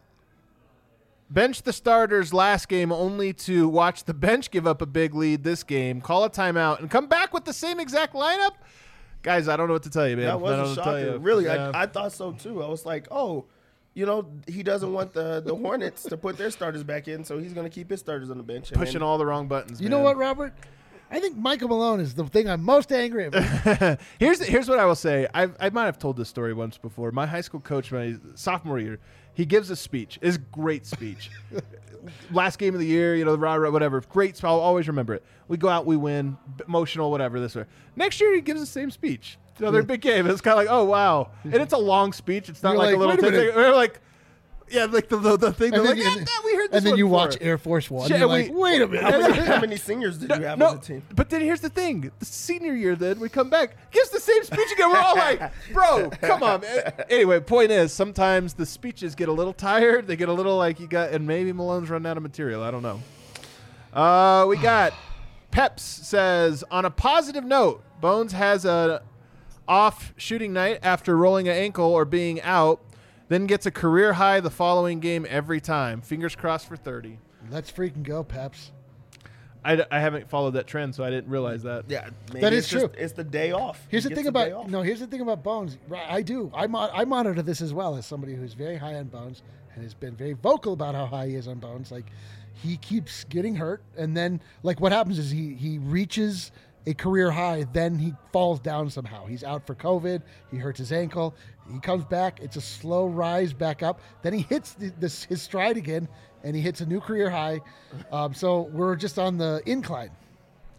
bench the starters last game only to watch the bench give up a big lead this game, call a timeout, and come back with the same exact lineup? Guys, I don't know what to tell you, man. That I don't was know a what to tell shocker. you. Really, Yeah. I thought so too. I was like, oh, he doesn't want the Hornets to put their starters back in, so he's going to keep his starters on the bench. And Pushing all the wrong buttons, You man. know what, Robert? I think Michael Malone is the thing I'm most angry about. Here's what I will say. I might have told this story once before. My high school coach, my sophomore year, he gives a speech. It's a great speech. Last game of the year, the rah, rah, whatever. Great. I'll always remember it. We go out, we win, emotional, whatever. This way. Next year, he gives the same speech. Their big game. It's kind of like, oh wow, and it's a long speech. It's not You're like a like, little wait a thing. We're like, yeah, like the thing. They're And like, then- yeah, we heard this. And then one you before. watch Air Force One. Yeah, You're like, wait a minute. How many seniors did you have No, on the team? but then here's the thing: the senior year, then we come back, gives the same speech again. We're all like, "Bro, come on, man." Anyway, point is, sometimes the speeches get a little tired. They get a little like and maybe Malone's running out of material. I don't know. We got Peps says, on a positive note, Bones has a off shooting night after rolling an ankle or being out, then gets a career high the following game every time. Fingers crossed for 30. Let's freaking go, Peps. I haven't followed that trend, so I didn't realize that. Yeah, maybe That is it's just- true. It's the day off. Here's He the gets thing day about off. here's the thing about Bones. Right, I do. I monitor this as well as somebody who's very high on Bones and has been very vocal about how high he is on Bones. Like he keeps getting hurt, and then like what happens is he reaches a career high, then he falls down somehow. He's out for COVID. He hurts his ankle. He comes back. It's a slow rise back up. Then he hits his stride again, and he hits a new career high. So we're just on the incline.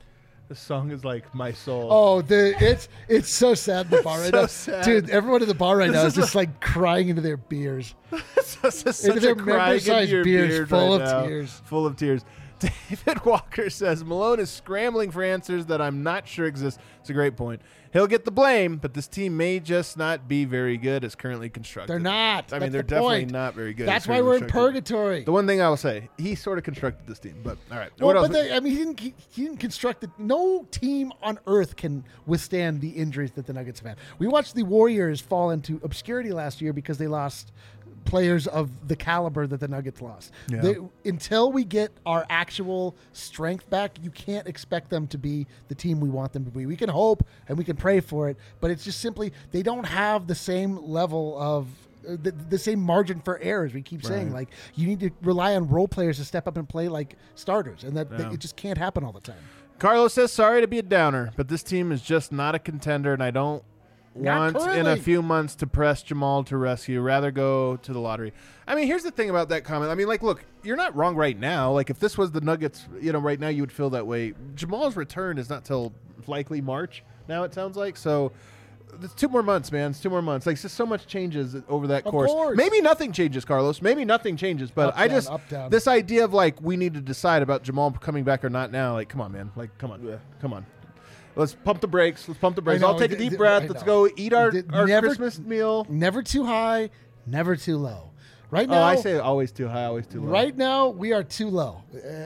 This song is like my soul. Oh, it's so sad in the bar right So now. sad. Dude, everyone in the bar right This now is is just like crying into their beers. It's just such Into their a crying member-sized into your beers beard full right of now. tears. Full of tears. David Walker says Malone is scrambling for answers that I'm not sure exist. It's a great point. He'll get the blame, but this team may just not be very good as currently constructed. They're not. I mean, That's they're the definitely point. not very good. That's as why currently we're in constructed. purgatory. The one thing I will say, he sort of constructed this team, but all right. Well, What else? but he didn't construct it. No team on earth can withstand the injuries that the Nuggets have had. We watched the Warriors fall into obscurity last year because they lost players of the caliber that the Nuggets lost. Yeah. Until we get our actual strength back, you can't expect them to be the team we want them to be. We can hope and we can pray for it, but it's just simply they don't have the same level of the same margin for error, as we keep saying. Like, you need to rely on role players to step up and play like starters, and that it just can't happen all the time. Carlos says, sorry to be a downer, but this team is just not a contender, and I don't Not want in a currently. few months to press Jamal to rescue. Rather go to the lottery. I mean, here's the thing about that comment. I mean, like, look, you're not wrong right now. Like, if this was the Nuggets, right now you would feel that way. Jamal's return is not till likely March now, it sounds like. So it's 2 more months, man. It's 2 more months. Like, it's just so much changes over that Of course. course. Maybe nothing changes, Carlos. Maybe nothing changes. But Up, down, I just, up, down. this idea of, like, we need to decide about Jamal coming back or not now. Like, come on, man. Like, come on. Yeah. Come on. Let's pump the brakes. Let's pump the brakes. I know, I'll take a deep I breath. know. Let's go eat our Never- Christmas meal. Never too high, never too low. Right Oh, now, I say always too high, always too low. right now we are too low.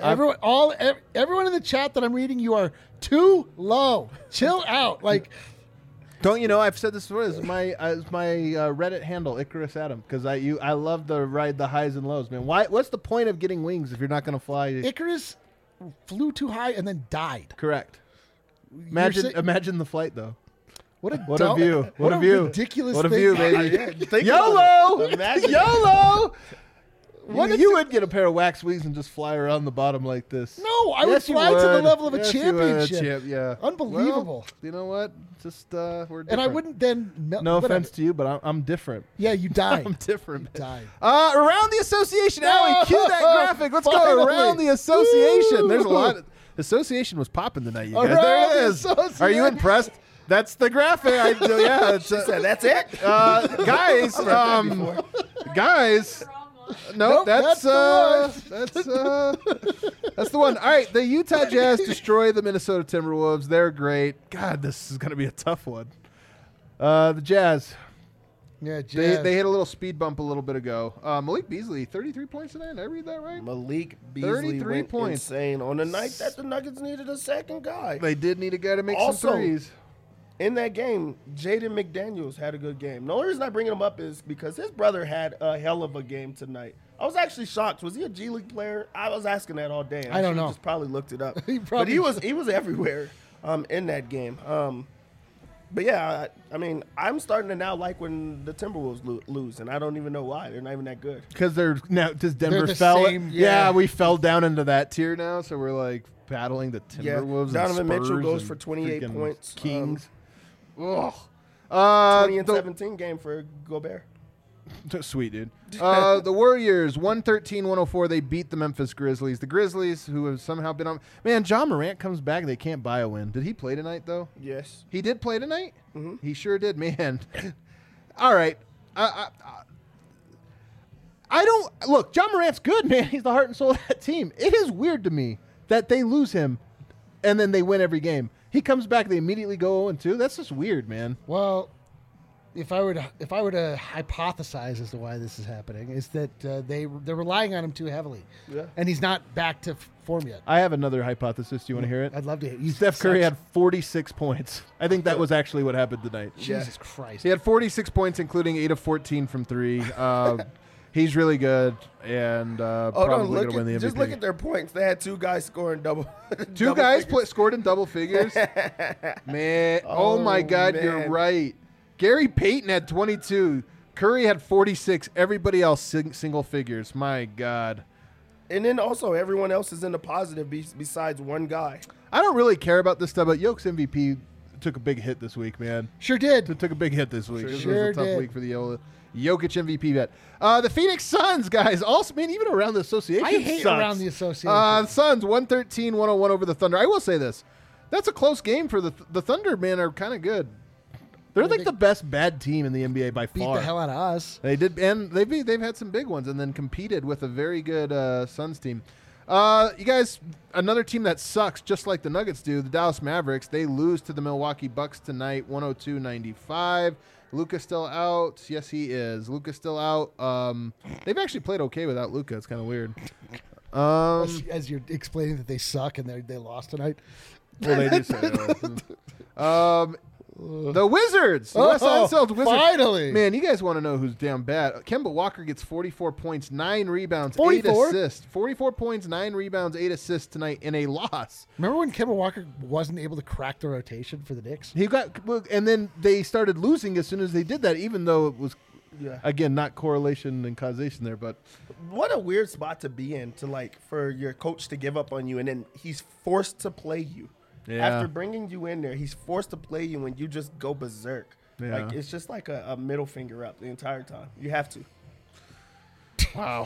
Everyone in the chat that I'm reading, you are too low. Chill out. Like, Don't you know? I've said this before. This is my Reddit handle, Icarus Adam, because I love to ride the highs and lows, man. What's the point of getting wings if you're not going to fly? Icarus flew too high and then died. Correct. You're sa- Imagine the flight though. What a What a dumb- view! What a view! ridiculous What a thing. view, baby! Think YOLO! about it. Imagine. YOLO! What You would get a pair of wax wings and just fly around the bottom like this. No, I would Yes, you fly to the would. level of a Yes, you would. championship. Yeah. Unbelievable. Well, you know what? Just we're different. And I wouldn't then melt. No whatever. offense to you, but I'm different. Yeah, you died. I'm different. died. Around the association, Allie, cue that graphic. Let's go Finally. around the association. There's a Woo. lot. Association was popping tonight, you guys. Around There it the is. Are you association. impressed? That's the graphic. Yeah, it's, So that's it. guys. Guys. No, Nope, that's that's that's the one. All right, the Utah Jazz destroy the Minnesota Timberwolves. They're great. God, this is going to be a tough one. The Jazz. Yeah, Jazz. They hit a little speed bump a little bit ago. Malik Beasley, 33 points tonight. Did I read that right? Malik Beasley 33 went points. insane on the night that the Nuggets needed a second guy. They did need a guy to make Also, some threes. In that game, Jaden McDaniels had a good game. The only reason I bring him up is because his brother had a hell of a game tonight. I was actually shocked. Was he a G League player? I was asking that all day. I don't should've know. Just probably looked it up. He but probably he was everywhere in that game. But yeah, I mean, I'm starting to now like when the Timberwolves lose, and I don't even know why. They're not even that good. Because they're now, does Denver the fell? same, yeah, yeah. we fell down into that tier now, so we're like battling the Yeah, Timberwolves. Donovan and Mitchell Spurs goes and for 28 freaking points. Kings. Ugh. 20 and the- 17 game for Gobert. Sweet, dude. The Warriors, 113-104. They beat the Memphis Grizzlies. The Grizzlies, who have somehow been on. Man, John Morant comes back. They can't buy a win. Did he play tonight, though? Yes. He did play tonight? Mhm. He sure did, man. All right. I don't. Look, John Morant's good, man. He's the heart and soul of that team. It is weird to me that they lose him and then they win every game. He comes back, they immediately go 0-2. That's just weird, man. Well, if I were to hypothesize as to why this is happening, is that they're relying on him too heavily, Yeah. and he's not back to form yet. I have another hypothesis. Do you want to hear it? I'd love to hear. You Steph Curry such- had 46 points. I think that was actually what happened tonight. Jesus Christ. He had 46 points, including 8 of 14 from 3. He's really good and probably going to win the MVP. Just look at their points. They had two guys scoring double. Two double guys figures. scored in double figures. Man, oh my God, you're man. right. Gary Payton had 22. Curry had 46. Everybody else single figures. My God. And then also everyone else is in the positive besides one guy. I don't really care about this stuff, but Jokic MVP took a big hit this week, man. Sure did. It took a big hit this week. This Sure was a tough did. week for the Jokic MVP bet. The Phoenix Suns, guys, also, man, even around the association I hate sucks. around the association. Suns, 113-101 over the Thunder. I will say this. That's a close game for the Thunder. Man, are kind of good. They're like the best bad team in the NBA by Beat far. the hell out of us. They did, and they've had some big ones, and then competed with a very good Suns team. You guys, another team that sucks, just like the Nuggets do, the Dallas Mavericks. They lose to the Milwaukee Bucks tonight, 102-95. Luka's still out. Yes, he is. Luka's still out. They've actually played okay without Luka. It's kind of weird. As you're explaining that they suck and they lost tonight. Well, they do say that. The Wizards. The West Side Celtics Wizards. Finally. Man, you guys want to know who's down bad. Kemba Walker gets 44 points, 9 rebounds, 44? 8 assists. 44 points, 9 rebounds, 8 assists tonight in a loss. Remember when Kemba Walker wasn't able to crack the rotation for the Knicks? He got, and then they started losing as soon as they did that, even though it was, Yeah. again, not correlation and causation there, but What a weird spot to be in, to like for your coach to give up on you, and then he's forced to play you. Yeah. After bringing you in there, he's forced to play you, and you just go berserk. Yeah. Like it's just like a middle finger up the entire time. You have to. wow.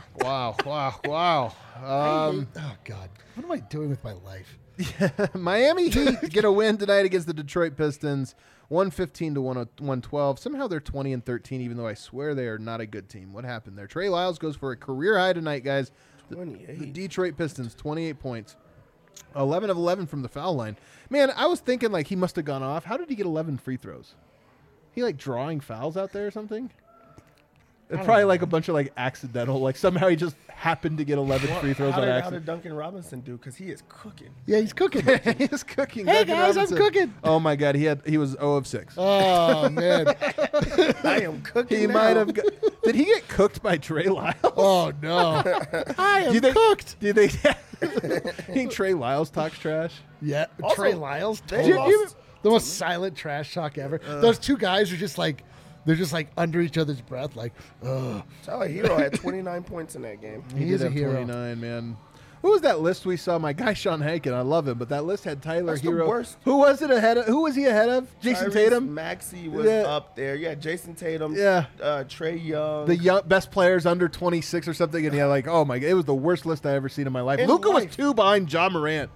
Oh, God. What am I doing with my life? Miami Heat get a win tonight against the Detroit Pistons, 115 to 112. Somehow they're 20-13, even though I swear they are not a good team. What happened there? Trey Lyles goes for a career high tonight, guys. The 28. Detroit Pistons, 28 points. 11 of 11 from the foul line. Man, I was thinking like he must have gone off. How did he get 11 free throws? He like drawing fouls out there or something? It's probably like a bunch of like accidental. Like somehow he just happened to get 11 free throws How on did accident. Duncan Robinson do? Because he is cooking. Yeah, he's cooking. He's cooking. Hey, Duncan guys, I'm Robinson. cooking. Oh my God, he was 0 of 6. Oh, man. I am cooking. He now. might have. Did he get cooked by Trey Lyles? Oh, no. I am Do you think, cooked. Do you think, you think Trey Lyles talks trash? Yeah. Also, Trey Lyles. they totally. lost- The most silent trash talk ever. Those two guys are just like, they're just like under each other's breath, like, ugh. Tyler Hero had 29 points in that game. He did is a have hero. 29, man. Who was that list we saw? My guy Sean Hankin. I love him, but that list had Tyler That's the Hero. worst. Who was it ahead of? Who was he ahead of? Jason Tyrese Tatum. Maxey was Yeah. up there. Yeah, Jason Tatum. Yeah. Trey Young. The best players under 26 or something, and yeah, like, oh my God, it was the worst list I ever seen in my life. In Luka was life. 2 behind John Morant.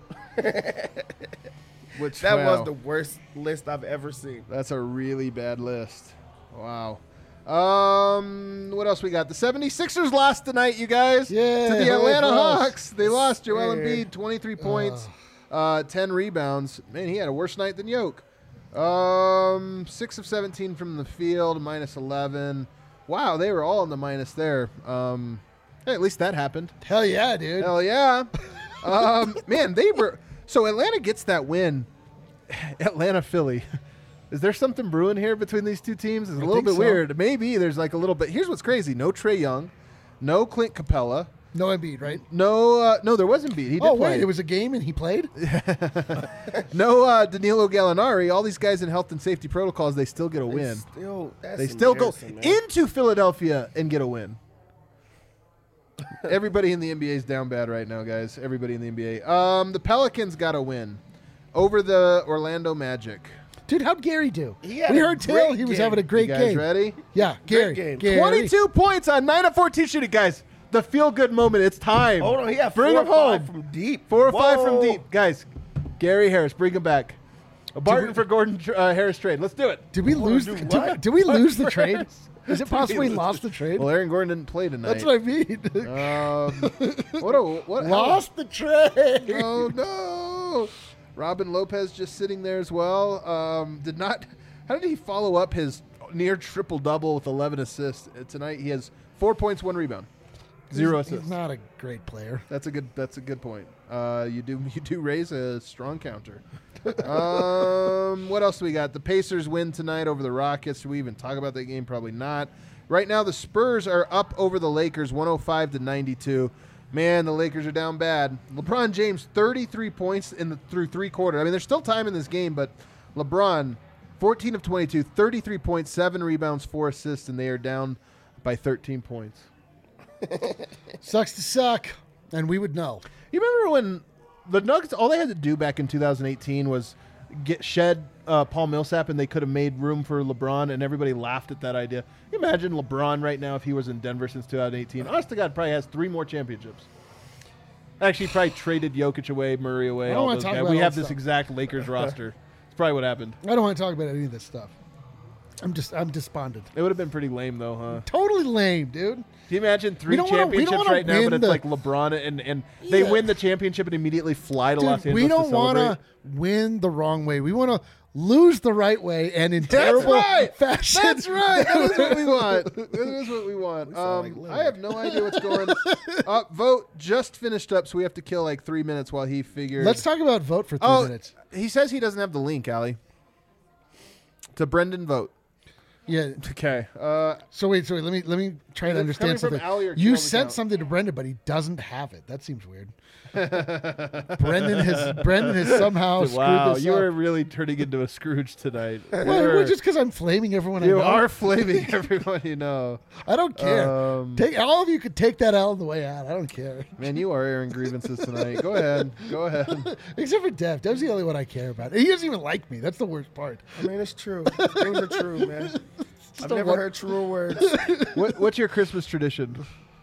Which that wow, was the worst list I've ever seen. that's a really bad list. Wow. What else we got? The 76ers lost tonight, you guys. Yeah, to the hooray Atlanta for us. Hawks. They lost Joel Yeah. Embiid, 23 points, 10 rebounds. Man, he had a worse night than Yoke. 6 of 17 from the field, minus 11. Wow, they were all in the minus there. Hey, at least that happened. Hell yeah, dude. Hell yeah. Man, they were. So Atlanta gets that win. Atlanta, Philly. Is there something brewing here between these two teams? It's a little think bit so. weird. Maybe there's like a little bit. Here's what's crazy. No Trae Young. No Clint Capella. No Embiid, right? No, there was Embiid. He did Oh, play. wait, it was a game and he played? No Danilo Gallinari. All these guys in health and safety protocols, they still get a win. That's They still go embarrassing, man. into Philadelphia and get a win. Everybody in the NBA is down bad right now, guys. Everybody in the NBA. The Pelicans got a win over the Orlando Magic. Dude, how'd Gary do? He had We a heard Till great he was game. having a You great guys game. ready? Yeah, Gary. game. Gary. 22 points on 9 of 14 shooting, guys. The feel-good moment. It's time. Hold on, he had Bring 4 him or 5 home. from deep. 4 or 5 from Whoa. deep, guys. Gary Harris, bring him back. A Barton for Gordon Harris trade. Let's do it. Did we Hold on, lose? do Did, what? did we lose the For trade? Harris. Is it possible we lost the trade? Well, Aaron Gordon didn't play tonight. That's what I mean. What? Lost the trade. Oh no! Robin Lopez just sitting there as well. How did he follow up his near triple double with 11 assists tonight? He has 4 points, 1 rebound, 0 assists. He's not a great player. That's a good point. You do raise a strong counter. What else do we got? The Pacers win tonight over the Rockets. Should we even talk about that game? Probably not. Right now, the Spurs are up over the Lakers, 105-92. Man, the Lakers are down bad. LeBron James, 33 points through 3 quarters. I mean, there's still time in this game, but LeBron, 14 of 22, 33 points, 7 rebounds, 4 assists, and they are down by 13 points. Sucks to suck, and we would know. You remember when the Nuggets, all they had to do back in 2018 was shed Paul Millsap, and they could have made room for LeBron, and everybody laughed at that idea. Can you imagine LeBron right now if he was in Denver since 2018? Honest to God, probably has 3 more championships. Actually, he probably traded Jokic away, Murray away. I don't All wanna those talk guys. about We all have that this stuff. exact Lakers roster. It's probably what happened. I don't want to talk about any of this stuff. I'm despondent. It would have been pretty lame, though, huh? Totally lame, dude. Can you imagine We 3 don't wanna- we don't championships wanna right now, but win it's the- like LeBron and they Yeah. win the championship and immediately fly to Los Dude, Angeles we don't to celebrate? want to win the wrong way. We want to lose the right way and in That's terrible right. fashion. That's right. That is what we want. That is what we want. sound like I have no idea what's going on. Vote just finished up, so we have to kill like 3 minutes while he figures. Let's talk about vote for 3 minutes. He says he doesn't have the link, Allie. To Brendan Vote. Yeah. Okay. So wait. Let me try Is to it understand coming from something. Ali or You Kelvin sent Count? something to Brendan, but he doesn't have it. That seems weird. Brendan has somehow Wow, screwed this you up. are really turning into a Scrooge tonight. Well, just because I'm flaming everyone I You know. are flaming everyone you know. I don't care. Um, All of you could take that out on the way out. I don't care. Man, you are airing grievances tonight. Go ahead. Go ahead. Except for Dev. Dev's the only one I care about. He doesn't even like me. That's the worst part. I mean, it's true. Things are true, man. I've a never one- heard truer words. What's your Christmas tradition?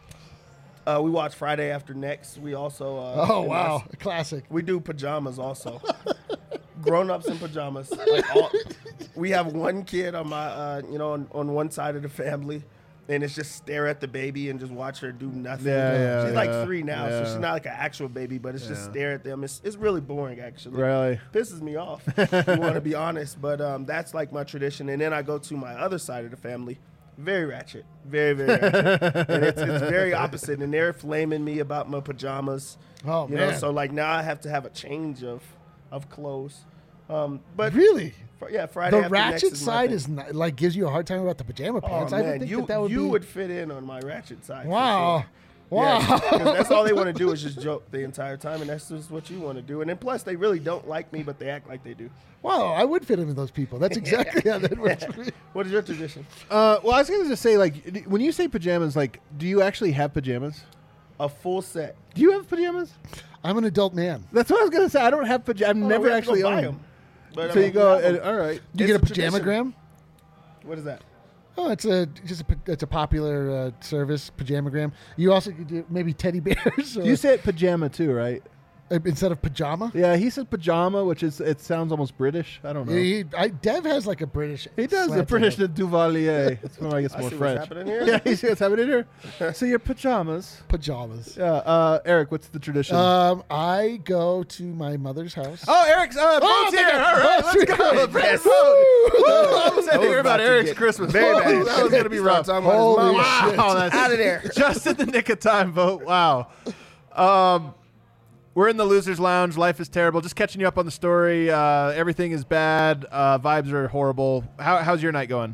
We watch Friday After Next. We also. Oh, wow. A classic. We do pajamas also. Grown-ups in pajamas. We have one kid on my, on one side of the family, and it's just stare at the baby and just watch her do nothing. Yeah, she's like 3 now, so yeah. she's not like an actual baby, but it's just stare at them. It's really boring, actually. Really? Pisses me off. If you want to be honest, but that's like my tradition. And then I go to my other side of the family. Very ratchet. Very, very ratchet. And it's very opposite. And they're flaming me about my pajamas. Oh, you know, man. so like now I have to have a change of clothes. But Really? Friday The After Next ratchet is my side thing. is not, like gives you a hard time about the pajama Oh pants. I man, would think you that would be. would fit in on my ratchet side. for Wow. sure. Wow. Yeah, 'cause that's all they want to do is just joke the entire time, and that's just what you want to do. And then plus, they really don't like me, but they act like they do. Wow, I would fit in with those people. That's exactly how that works for me. What is your tradition? Well, I was going to just say, like, when you say pajamas, like, do you actually have pajamas? A full set. Do you have pajamas? I'm an adult man. That's what I was going to say. I don't have pajamas. I've never we have to go actually buy owned 'em. But, So you go, we have 'em. and, all right. Do you It's get a a tradition. pajamagram? What is that? Oh, it's a popular service, pajamagram. You also could do maybe teddy bears or, You said pajama too, right? instead of pajama. Yeah, he said pajama, which it sounds almost British. I don't know. Dev has like a British. He does the slant to British it. Duvalier. That's when I get I more see French. what's happening here. Yeah, you see what's happening here. So your pajamas. pajamas. Yeah, Eric, what's the tradition? I go to my mother's house. Oh, Eric's vote's here. All right, let's go. Brandon, Yes. vote. Woo! I was I was hear about about to Eric's get Christmas. very Whoa, bad. That was going to be rough. Start talking about his Holy mama. shit. Wow, that's Out of there. just in the nick of time, vote. Wow. We're in the Losers Lounge. Life is terrible. Just catching you up on the story. Everything is bad. Vibes are horrible. How's your night going?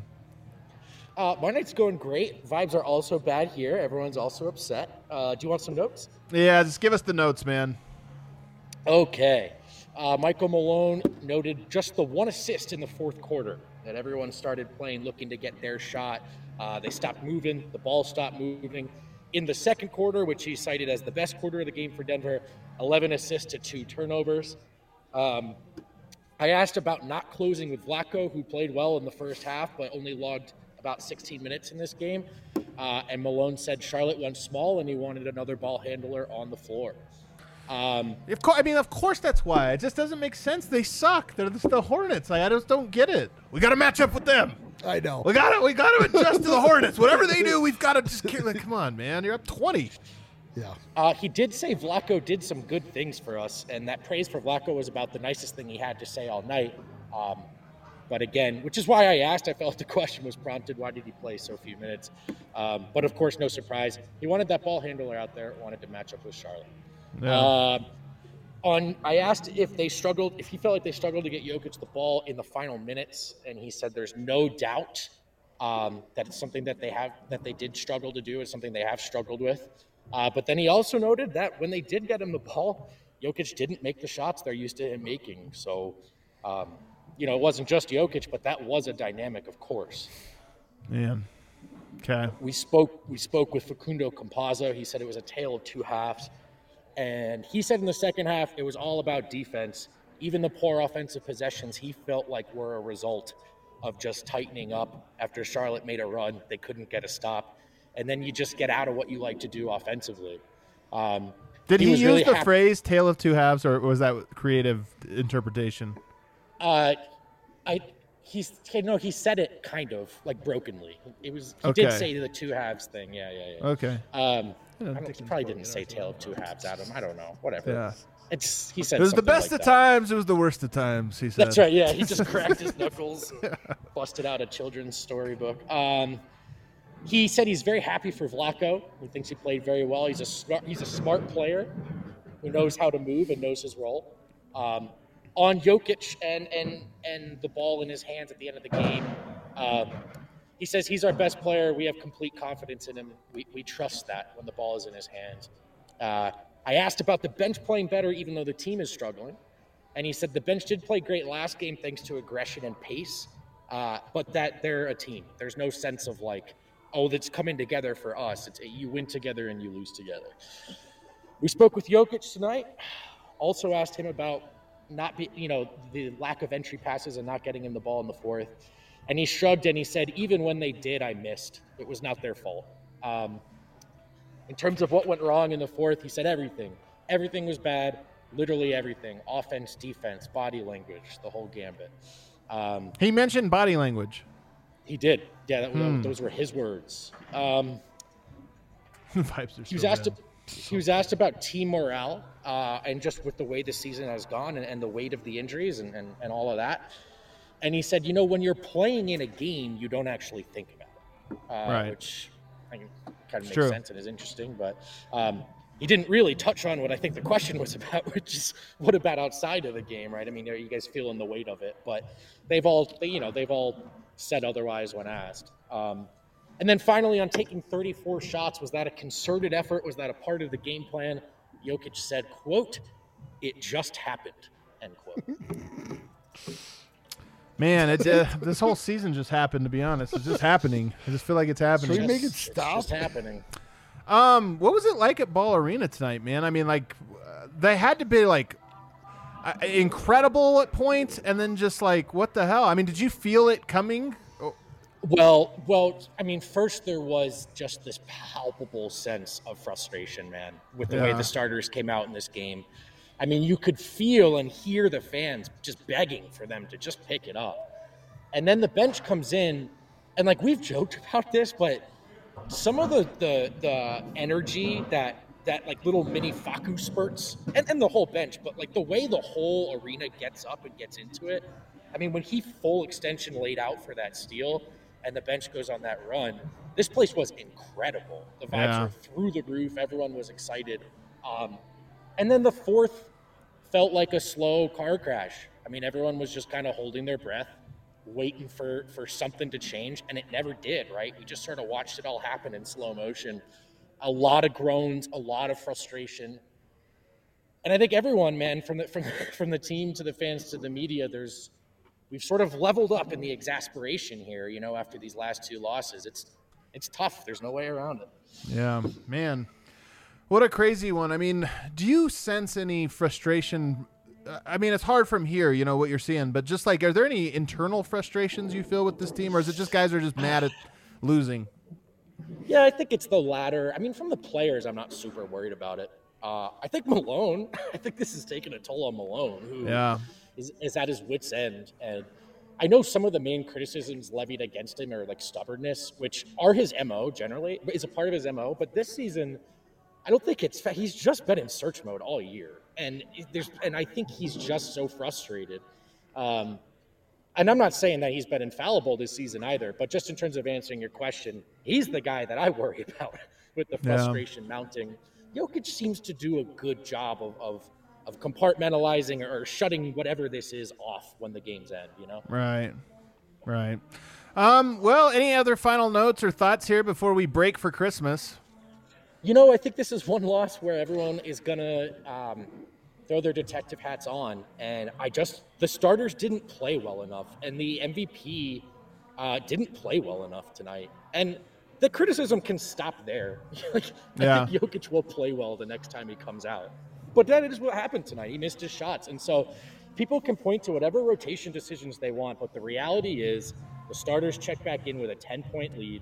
My night's going great. Vibes are also bad here. Everyone's also upset. Do you want some notes? Yeah, just give us the notes, man. Okay. Michael Malone noted just the one assist in the fourth quarter that everyone started playing looking to get their shot. They stopped moving. The ball stopped moving. In the second quarter, which he cited as the best quarter of the game for Denver, 11 assists to 2 turnovers. I asked about not closing with Vlatko, who played well in the first half, but only logged about 16 minutes in this game. And Malone said Charlotte went small and he wanted another ball handler on the floor. Of course that's why. It just doesn't make sense. They suck. They're the Hornets. I just don't get it. We got to match up with them. I know. We got to adjust to the Hornets. Whatever they do, we've got to just come on, man. You're up 20. Yeah. He did say Vlatko did some good things for us, and that praise for Vlatko was about the nicest thing he had to say all night. But again, which is why I asked, I felt the question was prompted, why did he play so few minutes? But of course, no surprise. He wanted that ball handler out there, wanted to match up with Charlotte. Yeah. I asked if he felt like they struggled to get Jokic the ball in the final minutes, and he said there's no doubt that it's something that they did struggle to do. It's something they have struggled with. But then he also noted that when they did get him the ball, Jokic didn't make the shots they're used to him making. So, it wasn't just Jokic, but that was a dynamic, of course. Man. Okay. We spoke with Facundo Campazzo. He said it was a tale of two halves. And he said in the second half, it was all about defense. Even the poor offensive possessions, he felt like were a result of just tightening up after Charlotte made a run. They couldn't get a stop. And then you just get out of what you like to do offensively. Did he was use really the happy. phrase "tale of two halves" or was that creative interpretation? He said it kind of like brokenly. He Okay. did say the two halves thing. Yeah. Okay. He probably didn't say tale of two halves, Adam. I don't know. Whatever. Yeah. He said It was the something best like of that. times. It was the worst of times. He said. That's right. Yeah, he just cracked his knuckles, busted out a children's storybook. He said he's very happy for Vlatko. He thinks he played very well. He's a smart player who knows how to move and knows his role. On Jokic and the ball in his hands at the end of the game, he says he's our best player. We have complete confidence in him. We trust that when the ball is in his hands. I asked about the bench playing better, even though the team is struggling. And he said the bench did play great last game thanks to aggression and pace, but that they're a team. There's no sense of like, oh, that's coming together for us. You win together and you lose together. We spoke with Jokic tonight. Also asked him about the lack of entry passes and not getting him the ball in the fourth. And he shrugged and he said, even when they did, I missed. It was not their fault. In terms of what went wrong in the fourth, he said everything. Everything was bad, literally everything. Offense, defense, body language, the whole gambit. He mentioned body language. He did. Yeah, those were his words. Vibes are He was so asked. bad. He was asked about team morale and just with the way the season has gone and the weight of the injuries and all of that. And he said, when you're playing in a game, you don't actually think about it, Right. which kind of makes true. sense and is interesting. But he didn't really touch on what I think the question was about, which is what about outside of the game, right? I mean, are you guys feeling the weight of it? But they've all said otherwise when asked. And then finally, on taking 34 shots, was that a concerted effort? Was that a part of the game plan? Jokic said, quote, "It just happened," end quote. Man, this whole season just happened. To be honest, it's just happening. I just feel like it's happening. Should we make it It's stop? just happening. What was it like at Ball Arena tonight, man? I mean, like, they had to be like incredible at points, and then just like, what the hell? I mean, did you feel it coming? Well, I mean, first there was just this palpable sense of frustration, man, with the way Yeah. the starters came out in this game. I mean, you could feel and hear the fans just begging for them to just pick it up. And then the bench comes in, and like we've joked about this, but some of the energy that like little mini Facu spurts and the whole bench, but like the way the whole arena gets up and gets into it. I mean, when he full extension laid out for that steal and the bench goes on that run, this place was incredible. The vibes were through the roof. Everyone was excited. And then the fourth felt like a slow car crash. I mean, everyone was just kind of holding their breath, waiting for something to change, and it never did, right? We just sort of watched it all happen in slow motion. A lot of groans, a lot of frustration. And I think everyone, man, from the team to the fans to the media, we've sort of leveled up in the exasperation here, after these last two losses. It's tough. There's no way around it. Yeah, man. What a crazy one. I mean, do you sense any frustration? I mean, it's hard from here, what you're seeing, but just like, are there any internal frustrations you feel with this team, or is it just guys are just mad at losing? Yeah, I think it's the latter. I mean, from the players, I'm not super worried about it. I think Malone, I think this is taking a toll on Malone, who is at his wit's end. And I know some of the main criticisms levied against him are like stubbornness, which are his MO generally, is a part of his MO. But this season, I don't think he's just been in search mode all year. And I think he's just so frustrated. And I'm not saying that he's been infallible this season either, but just in terms of answering your question, he's the guy that I worry about with the frustration mounting. Jokic seems to do a good job of compartmentalizing or shutting whatever this is off when the games end, Right. Well, any other final notes or thoughts here before we break for Christmas? I think this is one loss where everyone is going to throw their detective hats on. And the starters didn't play well enough. And the MVP didn't play well enough tonight. And the criticism can stop there. I think Jokic will play well the next time he comes out. But that is what happened tonight. He missed his shots. And so people can point to whatever rotation decisions they want. But the reality is the starters check back in with a 10-point lead.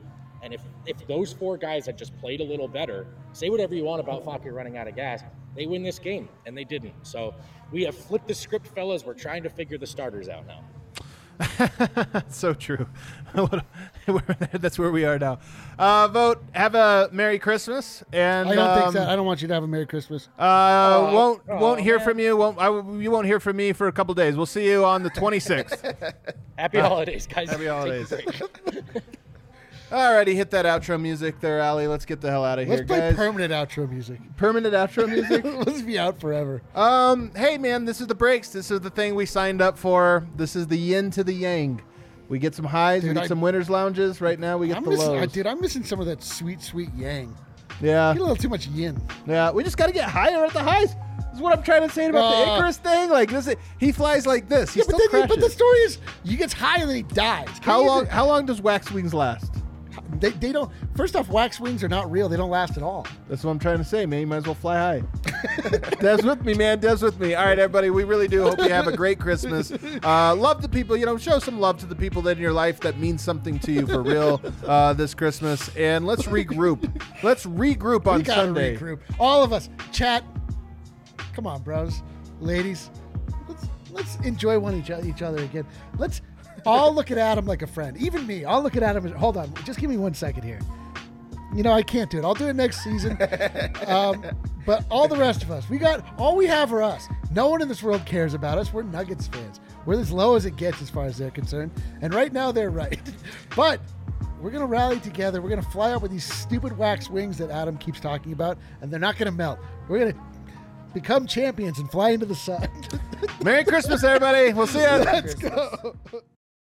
And if those 4 guys had just played a little better, say whatever you want about Falco running out of gas, they win this game, and they didn't. So we have flipped the script, fellas. We're trying to figure the starters out now. So true. That's where we are now. Vote. Have a Merry Christmas. And I don't think so. I don't want you to have a Merry Christmas. Won't hear from you. You won't hear from me for a couple days. We'll see you on the 26th. Happy holidays, guys. Happy holidays. Take a break. Alrighty, hit that outro music there, Ali. Let's get the hell out of here, Let's play guys. permanent outro music. Permanent outro music. Let's be out forever. Hey man, this is the breaks. This is the thing we signed up for. This is the yin to the yang. We get some highs, we get some winners lounges. Right now we get the lows. Dude, I'm missing some of that sweet, sweet yang. Yeah. Get a little too much yin. Yeah, we just got to get higher at the highs. This is what I'm trying to say about the Icarus thing. Like this, he flies like this. He still crashes. But the story is, he gets high and then he dies. How long does wax wings last? They don't. First off, wax wings are not real. They don't last at all. That's what I'm trying to say, man. You might as well fly high. Dev's with me, man. Dev's with me. All right, everybody. We really do hope you have a great Christmas. Love the people. Show some love to the people that in your life that mean something to you for real this Christmas. And let's regroup. Let's regroup on Sunday. Regroup. All of us. Chat. Come on, bros, ladies. Let's enjoy each other again. Let's all look at Adam like a friend. Even me. I'll look at Adam. Hold on. Just give me 1 second here. I can't do it. I'll do it next season. But all the rest of us, all we have are us. No one in this world cares about us. We're Nuggets fans. We're as low as it gets as far as they're concerned. And right now they're right. But we're going to rally together. We're going to fly up with these stupid wax wings that Adam keeps talking about. And they're not going to melt. We're going to become champions and fly into the sun. Merry Christmas, everybody. We'll see you. Let's go.